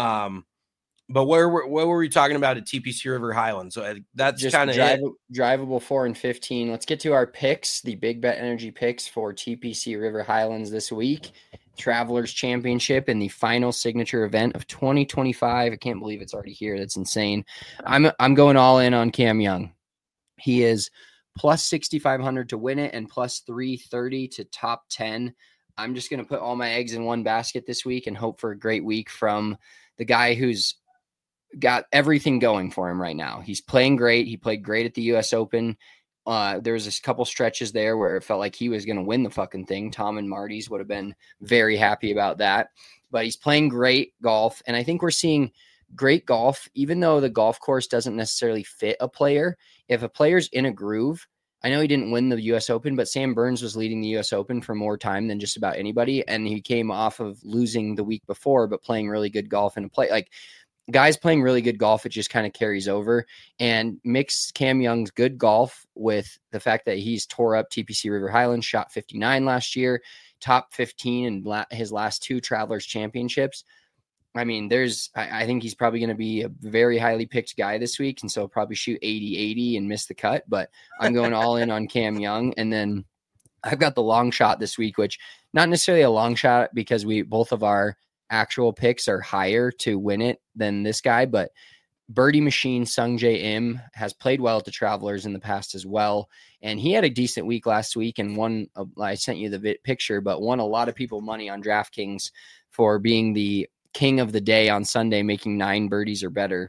But what were we talking about at TPC River Highlands? So that's just kind of drivable 4 and 15. Let's get to our picks, the Big Bet Energy picks for TPC River Highlands this week. Travelers Championship in the final signature event of 2025. I can't believe it's already here. That's insane. I'm going all in on Cam Young. He is plus 6,500 to win it and plus 330 to top 10. I'm just going to put all my eggs in one basket this week and hope for a great week from the guy who's got everything going for him right now. He's playing great. He played great at the US Open. There was a couple stretches there where it felt like he was going to win the fucking thing. Tom and Marty's would have been very happy about that, but he's playing great golf. And I think we're seeing great golf, even though the golf course doesn't necessarily fit a player. If a player's in a groove, I know he didn't win the US Open, but Sam Burns was leading the US Open for more time than just about anybody. And he came off of losing the week before, but playing really good golf in a play. Like, guys playing really good golf, it just kind of carries over. And mix Cam Young's good golf with the fact that he's tore up TPC River Highlands, shot 59 last year, top 15 in his last 2 Travelers Championships. I mean, I think he's probably going to be a very highly picked guy this week. And so he'll probably shoot 80-80 and miss the cut, but I'm going all in on Cam Young. And then I've got the long shot this week, which not necessarily a long shot because both of our actual picks are higher to win it than this guy, but Birdie Machine Sungjae Im has played well at the Travelers in the past as well. And he had a decent week last week and won, I sent you the picture, but won a lot of people money on DraftKings for being the king of the day on Sunday, making 9 birdies or better,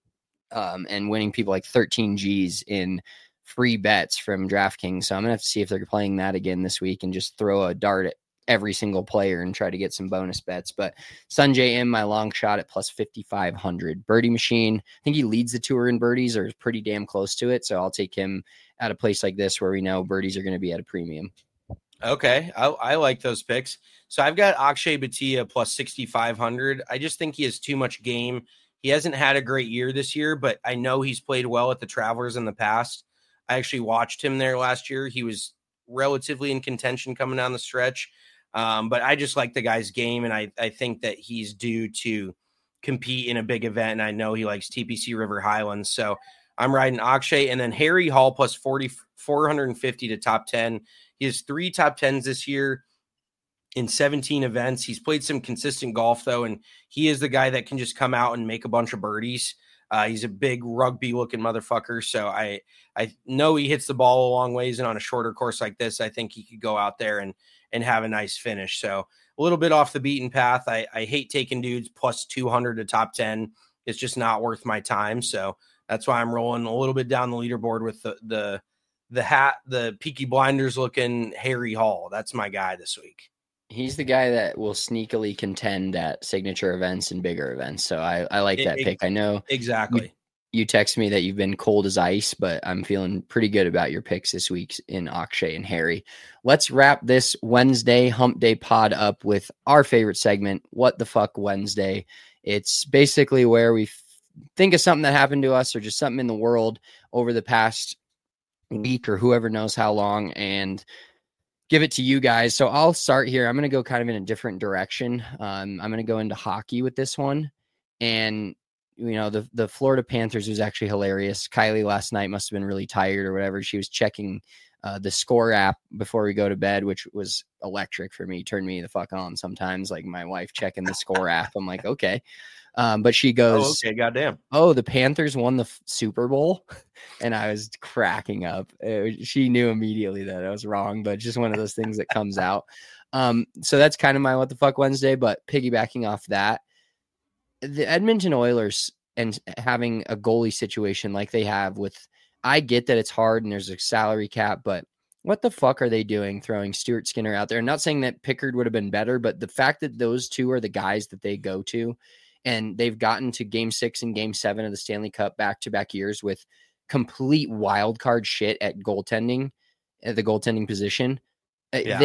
and winning people like 13 G's in free bets from DraftKings. So I'm going to have to see if they're playing that again this week and just throw a dart at every single player and try to get some bonus bets. But Sungjae Im, my long shot at plus 5,500. Birdie Machine, I think he leads the tour in birdies or is pretty damn close to it. So I'll take him at a place like this where we know birdies are going to be at a premium. Okay. I like those picks. So I've got Akshay Bhatia plus 6,500. I just think he has too much game. He hasn't had a great year this year, but I know he's played well at the Travelers in the past. I actually watched him there last year. He was relatively in contention coming down the stretch. But I just like the guy's game, and I think that he's due to compete in a big event, and I know he likes TPC River Highlands. So I'm riding Akshay, and then Harry Hall plus 450 to top 10. He has 3 top 10s this year in 17 events. He's played some consistent golf, though, and he is the guy that can just come out and make a bunch of birdies. He's a big rugby-looking motherfucker, so I know he hits the ball a long ways, and on a shorter course like this, I think he could go out there and have a nice finish. So a little bit off the beaten path. I hate taking dudes plus 200 to top 10. It's just not worth my time. So that's why I'm rolling a little bit down the leaderboard with the Peaky Blinders looking Harry Hall. That's my guy this week. He's the guy that will sneakily contend at signature events and bigger events. So I like that pick. I know exactly. You text me that you've been cold as ice, but I'm feeling pretty good about your picks this week in Akshay and Harry. Let's wrap this Wednesday Hump Day pod up with our favorite segment, What the Fuck Wednesday. It's basically where we think of something that happened to us or just something in the world over the past week or whoever knows how long and give it to you guys. So I'll start here. I'm going to go kind of in a different direction. I'm going to go into hockey with this one. And you know, the Florida Panthers was actually hilarious. Kylie last night must have been really tired or whatever. She was checking the score app before we go to bed, which was electric for me. Turned me the fuck on sometimes, like my wife checking the score app. I'm like, okay. But she goes, okay, goddamn. Oh, the Panthers won the Super Bowl. And I was cracking up. She knew immediately that I was wrong, but just one of those things that comes out. So that's kind of my What the Fuck Wednesday, but piggybacking off that, the Edmonton Oilers and having a goalie situation like they have with, I get that it's hard and there's a salary cap, but what the fuck are they doing throwing Stuart Skinner out there? I'm not saying that Pickard would have been better, but the fact that those two are the guys that they go to and they've gotten to game 6 and game 7 of the Stanley Cup back-to-back years with complete wild card shit at goaltending, at the goaltending position. Yeah.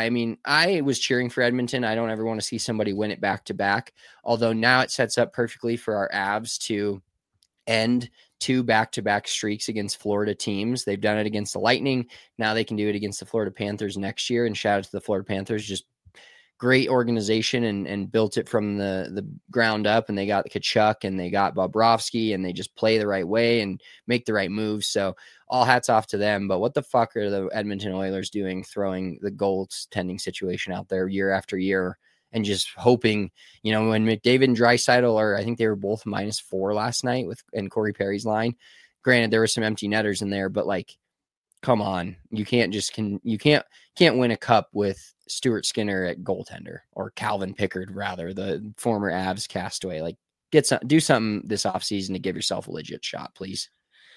I was cheering for Edmonton. I don't ever want to see somebody win it back to back. Although now it sets up perfectly for our Avs to end 2 back-to-back streaks against Florida teams. They've done it against the Lightning. Now they can do it against the Florida Panthers next year. And shout out to the Florida Panthers. Just great organization and built it from the ground up. And they got Tkachuk and they got Bobrovsky and they just play the right way and make the right moves. So all hats off to them. But what the fuck are the Edmonton Oilers doing throwing the goaltending situation out there year after year and just hoping, when McDavid and Draisaitl I think they were both -4 last night in Corey Perry's line. Granted, there were some empty netters in there, but like, come on, you can't win a cup with Stuart Skinner at goaltender, or Calvin Pickard, rather, the former Avs castaway. Like, do something this offseason to give yourself a legit shot, please.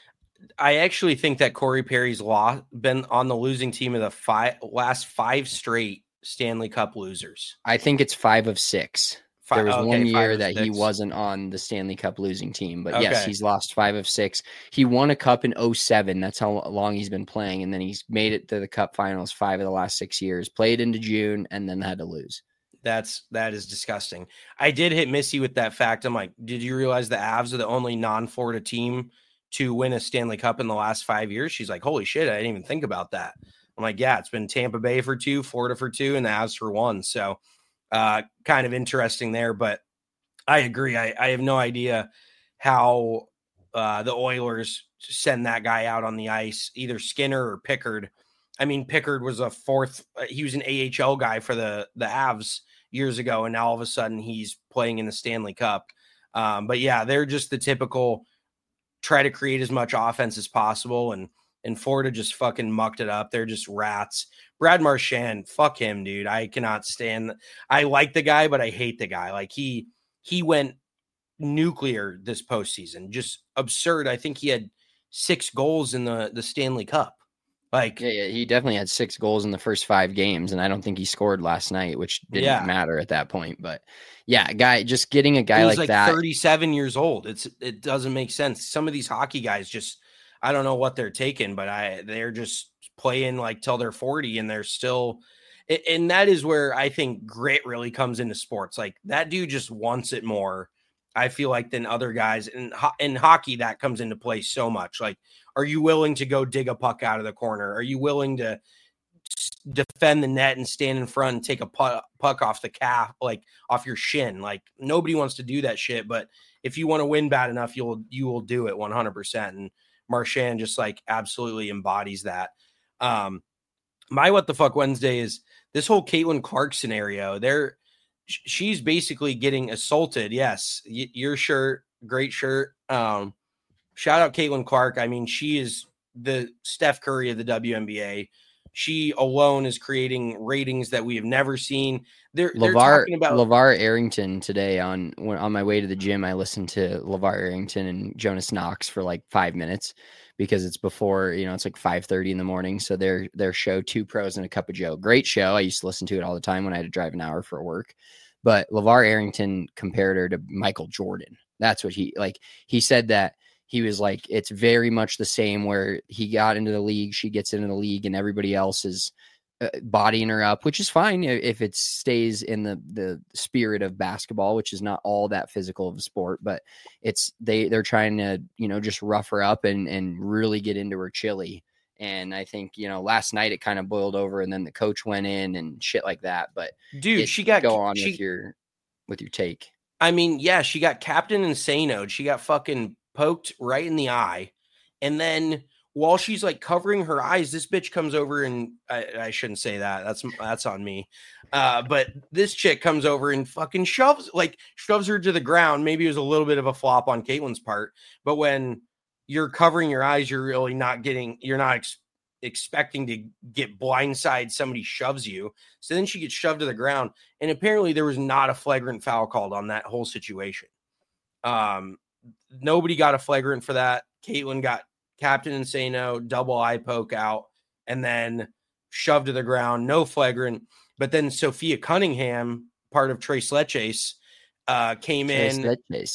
I actually think that Corey Perry's been on the losing team of the last 5 straight Stanley Cup losers. I think it's 5 of 6. There was one year that he wasn't on the Stanley Cup losing team, but yes, he's lost 5 of 6. He won a cup in 2007. That's how long he's been playing. And then he's made it to the cup finals 5 of the last 6 years, played into June, and then had to lose. That is disgusting. I did hit Missy with that fact. I'm like, did you realize the Avs are the only non-Florida team to win a Stanley Cup in the last 5 years? She's like, holy shit, I didn't even think about that. I'm like, yeah, it's been Tampa Bay for 2, Florida for 2, and the Avs for 1. So kind of interesting there, but I agree. I have no idea how the Oilers send that guy out on the ice, either Skinner or Pickard. I mean, Pickard was he was an AHL guy for the Avs years ago, and now all of a sudden he's playing in the Stanley Cup. But yeah, they're just the typical try to create as much offense as possible, and Florida just fucking mucked it up. They're just rats. Brad Marchand, fuck him, dude. I cannot stand. I like the guy, but I hate the guy. Like he went nuclear this postseason. Just absurd. I think he had 6 goals in the Stanley Cup. Like, yeah, he definitely had 6 goals in the first 5 games, and I don't think he scored last night, which didn't matter at that point. But yeah, just getting a guy like that. 37 years old. It doesn't make sense. Some of these hockey guys just, I don't know what they're taking, but they're just playing like till they're 40, and they're still, and that is where I think grit really comes into sports. Like, that dude just wants it more, I feel like, than other guys. And in hockey, that comes into play so much. Like, are you willing to go dig a puck out of the corner? Are you willing to defend the net and stand in front and take a puck off the calf, like off your shin? Like, nobody wants to do that shit, but if you want to win bad enough, you will do it 100%. And Marchand just like absolutely embodies that. My what the fuck Wednesday is this whole Caitlin Clark scenario. She's basically getting assaulted. Yes, your shirt, great shirt. Shout out Caitlin Clark. I mean, she is the Steph Curry of the WNBA. She alone is creating ratings that we have never seen. They're talking about LeVar Arrington today on my way to the gym. I listened to LeVar Arrington and Jonas Knox for like 5 minutes because it's before, it's like 5:30 in the morning. So their show, 2 Pros and a Cup of Joe, great show. I used to listen to it all the time when I had to drive an hour for work. But LeVar Arrington compared her to Michael Jordan. That's what he said that. He was like, it's very much the same where he got into the league, she gets into the league, and everybody else is bodying her up, which is fine if it stays in the spirit of basketball, which is not all that physical of a sport, but they're trying to, just rough her up and really get into her chili. And I think, last night it kind of boiled over, and then the coach went in and shit like that. But dude, with your take. I mean, yeah, she got Captain Insano'd. She got fucking poked right in the eye, and then while she's like covering her eyes, this bitch comes over and I shouldn't say that. That's on me. But this chick comes over and fucking shoves her to the ground. Maybe it was a little bit of a flop on Caitlin's part, but when you're covering your eyes, you're really you're not expecting to get blindside. Somebody shoves you. So then she gets shoved to the ground, and apparently there was not a flagrant foul called on that whole situation. Nobody got a flagrant for that. Caitlin got Captain Insano, double eye poke out, and then shoved to the ground. No flagrant. But then Sophia Cunningham, part of Tres Leches, came in.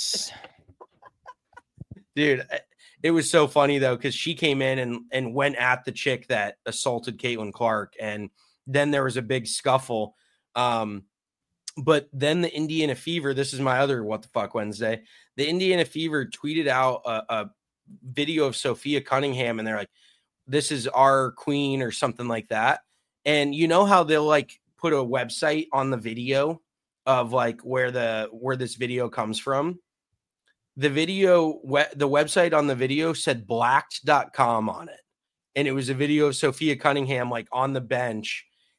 Dude, it was so funny, though, because she came in and went at the chick that assaulted Caitlin Clark. And then there was a big scuffle. But then the Indiana Fever, this is my other what the fuck Wednesday. The Indiana Fever tweeted out a video of Sophia Cunningham, and they're like, this is our queen or something like that. And you know how they'll like put a website on the video of like where this video comes from? The website on the video said blacked.com on it. And it was a video of Sophia Cunningham like on the bench.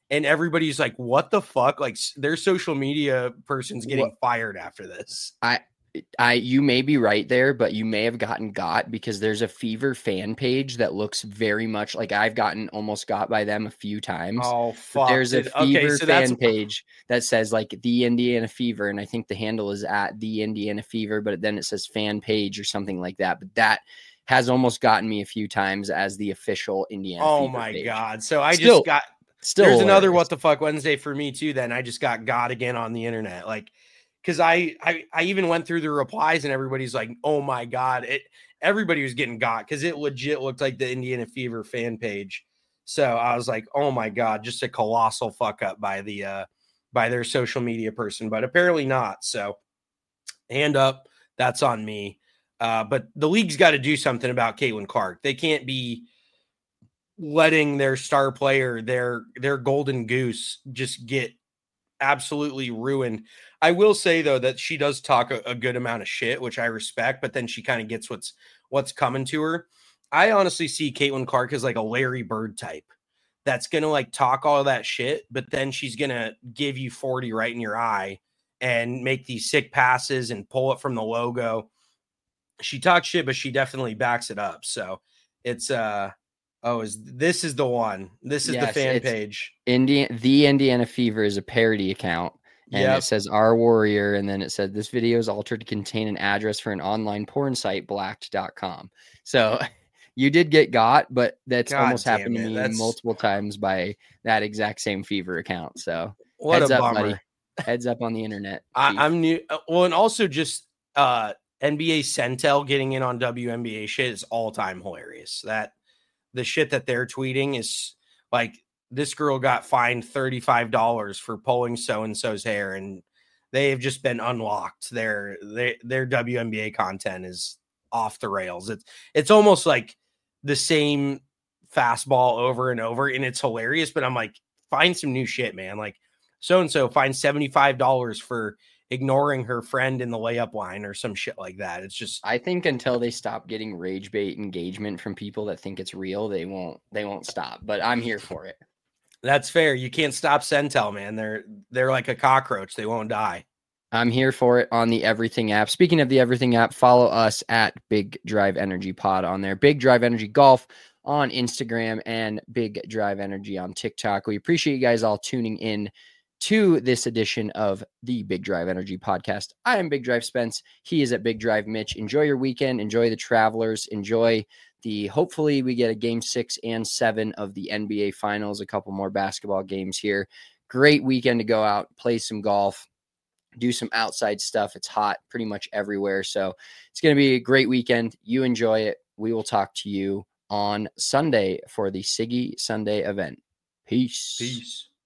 and everybody's like, what the fuck? Like their social media person's getting fired after this. You may be right there, but you may have gotten got because there's a Fever fan page that looks very much like I've gotten almost got by them a few times. Oh, fuck. There's a Fever fan page that says like the Indiana Fever. And I think the handle is at the Indiana Fever, but then it says fan page or something like that. But that has almost gotten me a few times as the official Indiana Fever my page. God. So I just got, there's hilarious. Another What the Fuck Wednesday for me too. Then I just got again on the internet. Like, because I even went through the replies and everybody's like, oh my God, everybody was getting got because it legit looked like the Indiana Fever fan page. So I was like, oh my God, just a colossal fuck up by their social media person, but apparently not. So hand up, that's on me. But the league's got to do something about Caitlin Clark. They can't be letting their star player, their golden goose, just get absolutely ruined. I will say though that she does talk a good amount of shit, which I respect, but then she kind of gets what's coming to her. I honestly see Caitlin Clark as like a Larry Bird type that's gonna like talk all that shit, but then she's gonna give you 40 right in your eye and make these sick passes and pull it from the logo. She talks shit, but she definitely backs it up. So it's this is the one. This is the fan page. The Indiana Fever is a parody account. And it says Our Warrior, and then it said this video is altered to contain an address for an online porn site, blacked.com. So you did get got, but that's almost happened to me multiple times by that exact same Fever account. So what heads a up, bummer. buddy. Heads up on the internet. I'm new. Well, and also just NBA Centel getting in on WNBA shit is all time hilarious. That the shit that they're tweeting is like, this girl got fined $35 for pulling so-and-so's hair, and they have just been unlocked. Their WNBA content is off the rails. It's almost like the same fastball over and over, and it's hilarious, but I'm like, find some new shit, man. Like, so-and-so fined $75 for ignoring her friend in the layup line or some shit like that. It's just, I think until they stop getting rage bait engagement from people that think it's real, they won't stop, but I'm here for it. That's fair. You can't stop Centel, man. They're like a cockroach. They won't die. I'm here for it on the Everything app. Speaking of the Everything app, follow us at Big Drive Energy Pod on there. Big Drive Energy Golf on Instagram and Big Drive Energy on TikTok. We appreciate you guys all tuning in to this edition of the Big Drive Energy Podcast. I am Big Drive Spence. He is at Big Drive Mitch. Enjoy your weekend. Enjoy the Travelers. Enjoy hopefully we get a game 6 and 7 of the NBA Finals, a couple more basketball games here. Great weekend to go out, play some golf, do some outside stuff. It's hot pretty much everywhere. So it's going to be a great weekend. You enjoy it. We will talk to you on Sunday for the Siggy Sunday event. Peace. Peace.